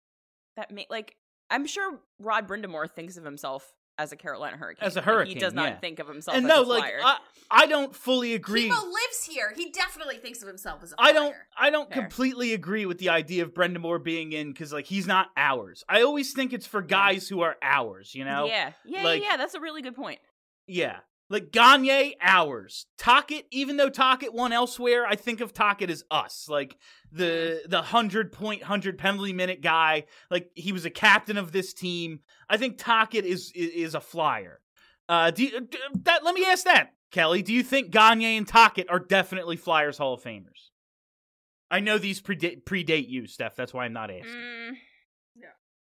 I'm sure Rod Brind'Amour thinks of himself as a Carolina Hurricane. As a Hurricane, he does not yeah. think of himself And as no, a Flyer. I don't fully agree. Chemo lives here. He definitely thinks of himself as a Flyer. I don't Fair. completely agree with the idea of Brind'Amour being in, because he's not ours. I always think it's for guys who are ours, Yeah, that's a really good point. Yeah. Gagne, ours. Tocchet, even though Tocchet won elsewhere, I think of Tocchet as us. The 100-point, 100 penalty minute guy. He was a captain of this team. I think Tocchet is a Flyer. Let me ask that, Kelly. Do you think Gagne and Tocchet are definitely Flyers Hall of Famers? I know these predate you, Steph. That's why I'm not asking. Yeah.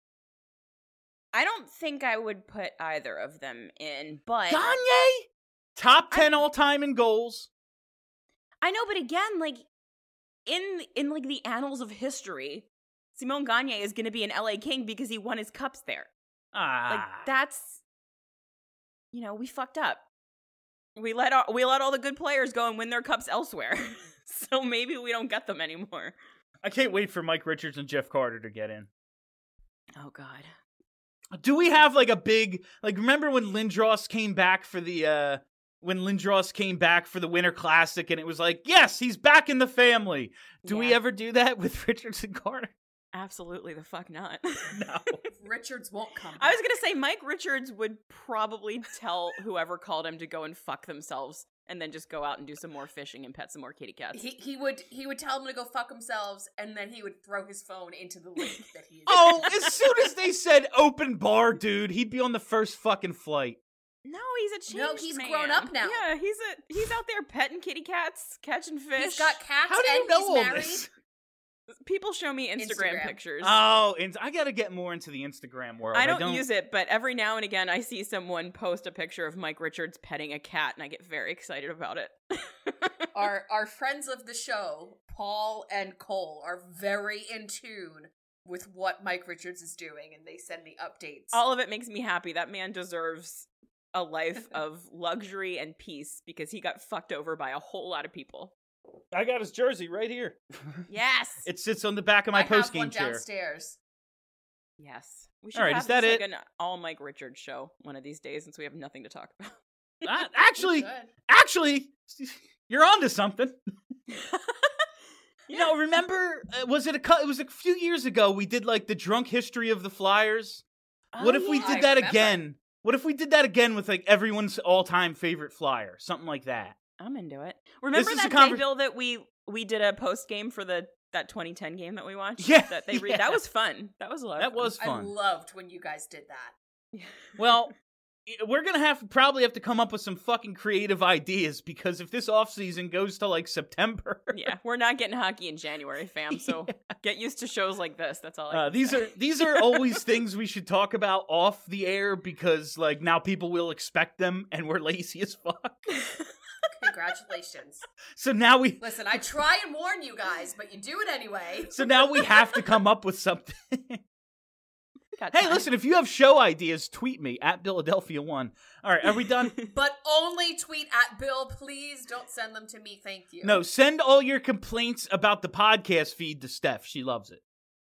I don't think I would put either of them in, but Gagne? Top 10 all-time in goals. I know, but again, in the annals of history, Simon Gagne is going to be an LA King because he won his cups there. That's, we fucked up. We let all the good players go and win their cups elsewhere. So maybe we don't get them anymore. I can't wait for Mike Richards and Jeff Carter to get in. Oh God. Do we have a big remember when Lindros came back for the Winter Classic and it was yes, he's back in the family. Do we ever do that with Richards and Carter? Absolutely the fuck not. No. Richards won't come back. I was going to say Mike Richards would probably tell whoever called him to go and fuck themselves and then just go out and do some more fishing and pet some more kitty cats. He would tell them to go fuck themselves, and then he would throw his phone into the lake that he. Oh, as soon as they said open bar, dude, he'd be on the first fucking flight. No, he's a changed No, he's man. grown up now. Yeah, he's out there petting kitty cats, catching fish. He's got cats How do you and know he's all married. this? People show me Instagram pictures. Oh, and I gotta get more into the Instagram world. I don't use it, but every now and again I see someone post a picture of Mike Richards petting a cat, and I get very excited about it. Our friends of the show, Paul and Cole, are very in tune with what Mike Richards is doing, and they send me updates. All of it makes me happy. That man deserves a life of luxury and peace because he got fucked over by a whole lot of people. I got his jersey right here. Yes. It sits on the back of my post-game chair. Downstairs. Yes. We should All right, have is that this, it? like an all Mike Richards show one of these days since we have nothing to talk about. Actually, you're onto something. You know, remember, it was a few years ago we did like the drunk history of the Flyers? What if we did that again? What if we did that again with like everyone's all-time favorite Flyer? Something like that. I'm into it. Remember This is that day, Bill, that we did a post game for that 2010 game that we watched? Yeah. That was fun. That was a lot of fun. That was fun. I loved when you guys did that. Well, we're going to probably have to come up with some fucking creative ideas because if this offseason goes to like September. Yeah, we're not getting hockey in January, fam. So get used to shows like this. That's all I can say. These are always things we should talk about off the air because like now people will expect them and we're lazy as fuck. Congratulations. So now Listen, I try and warn you guys, but you do it anyway. So now we have to come up with something. Hey, listen, if you have show ideas, tweet me at Philadelphia1. All right, are we done? But only tweet at Bill, please. Don't send them to me, thank you. No, send all your complaints about the podcast feed to Steph. She loves it.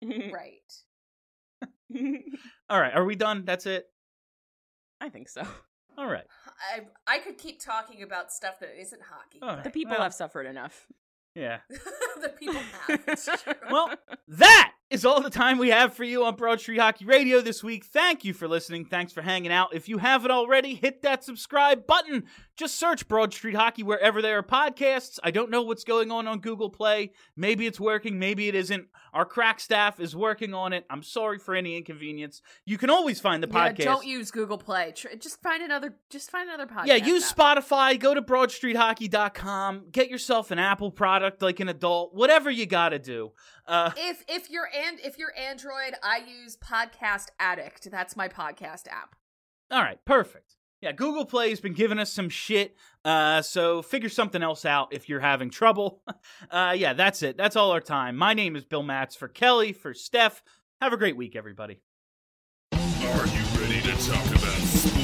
Right. All right, are we done? That's it? I think so. All right. I could keep talking about stuff that isn't hockey. Right. The people have suffered enough. Yeah. The people have. It's true. Well, that is all the time we have for you on Broad Street Hockey Radio this week. Thank you for listening. Thanks for hanging out. If you haven't already, hit that subscribe button. Just search Broad Street Hockey wherever there are podcasts. I don't know what's going on Google Play. Maybe it's working. Maybe it isn't. Our crack staff is working on it. I'm sorry for any inconvenience. You can always find the podcast. Don't use Google Play. Just find another podcast. Yeah, use Spotify. Go to BroadStreetHockey.com. Get yourself an Apple product like an adult. Whatever you gotta do. If you're Android, I use Podcast Addict. That's my podcast app. All right, perfect. Yeah, Google Play has been giving us some shit, so figure something else out if you're having trouble. Yeah, that's it. That's all our time. My name is Bill Matz for Kelly, for Steph. Have a great week, everybody. Are you ready to talk about sports?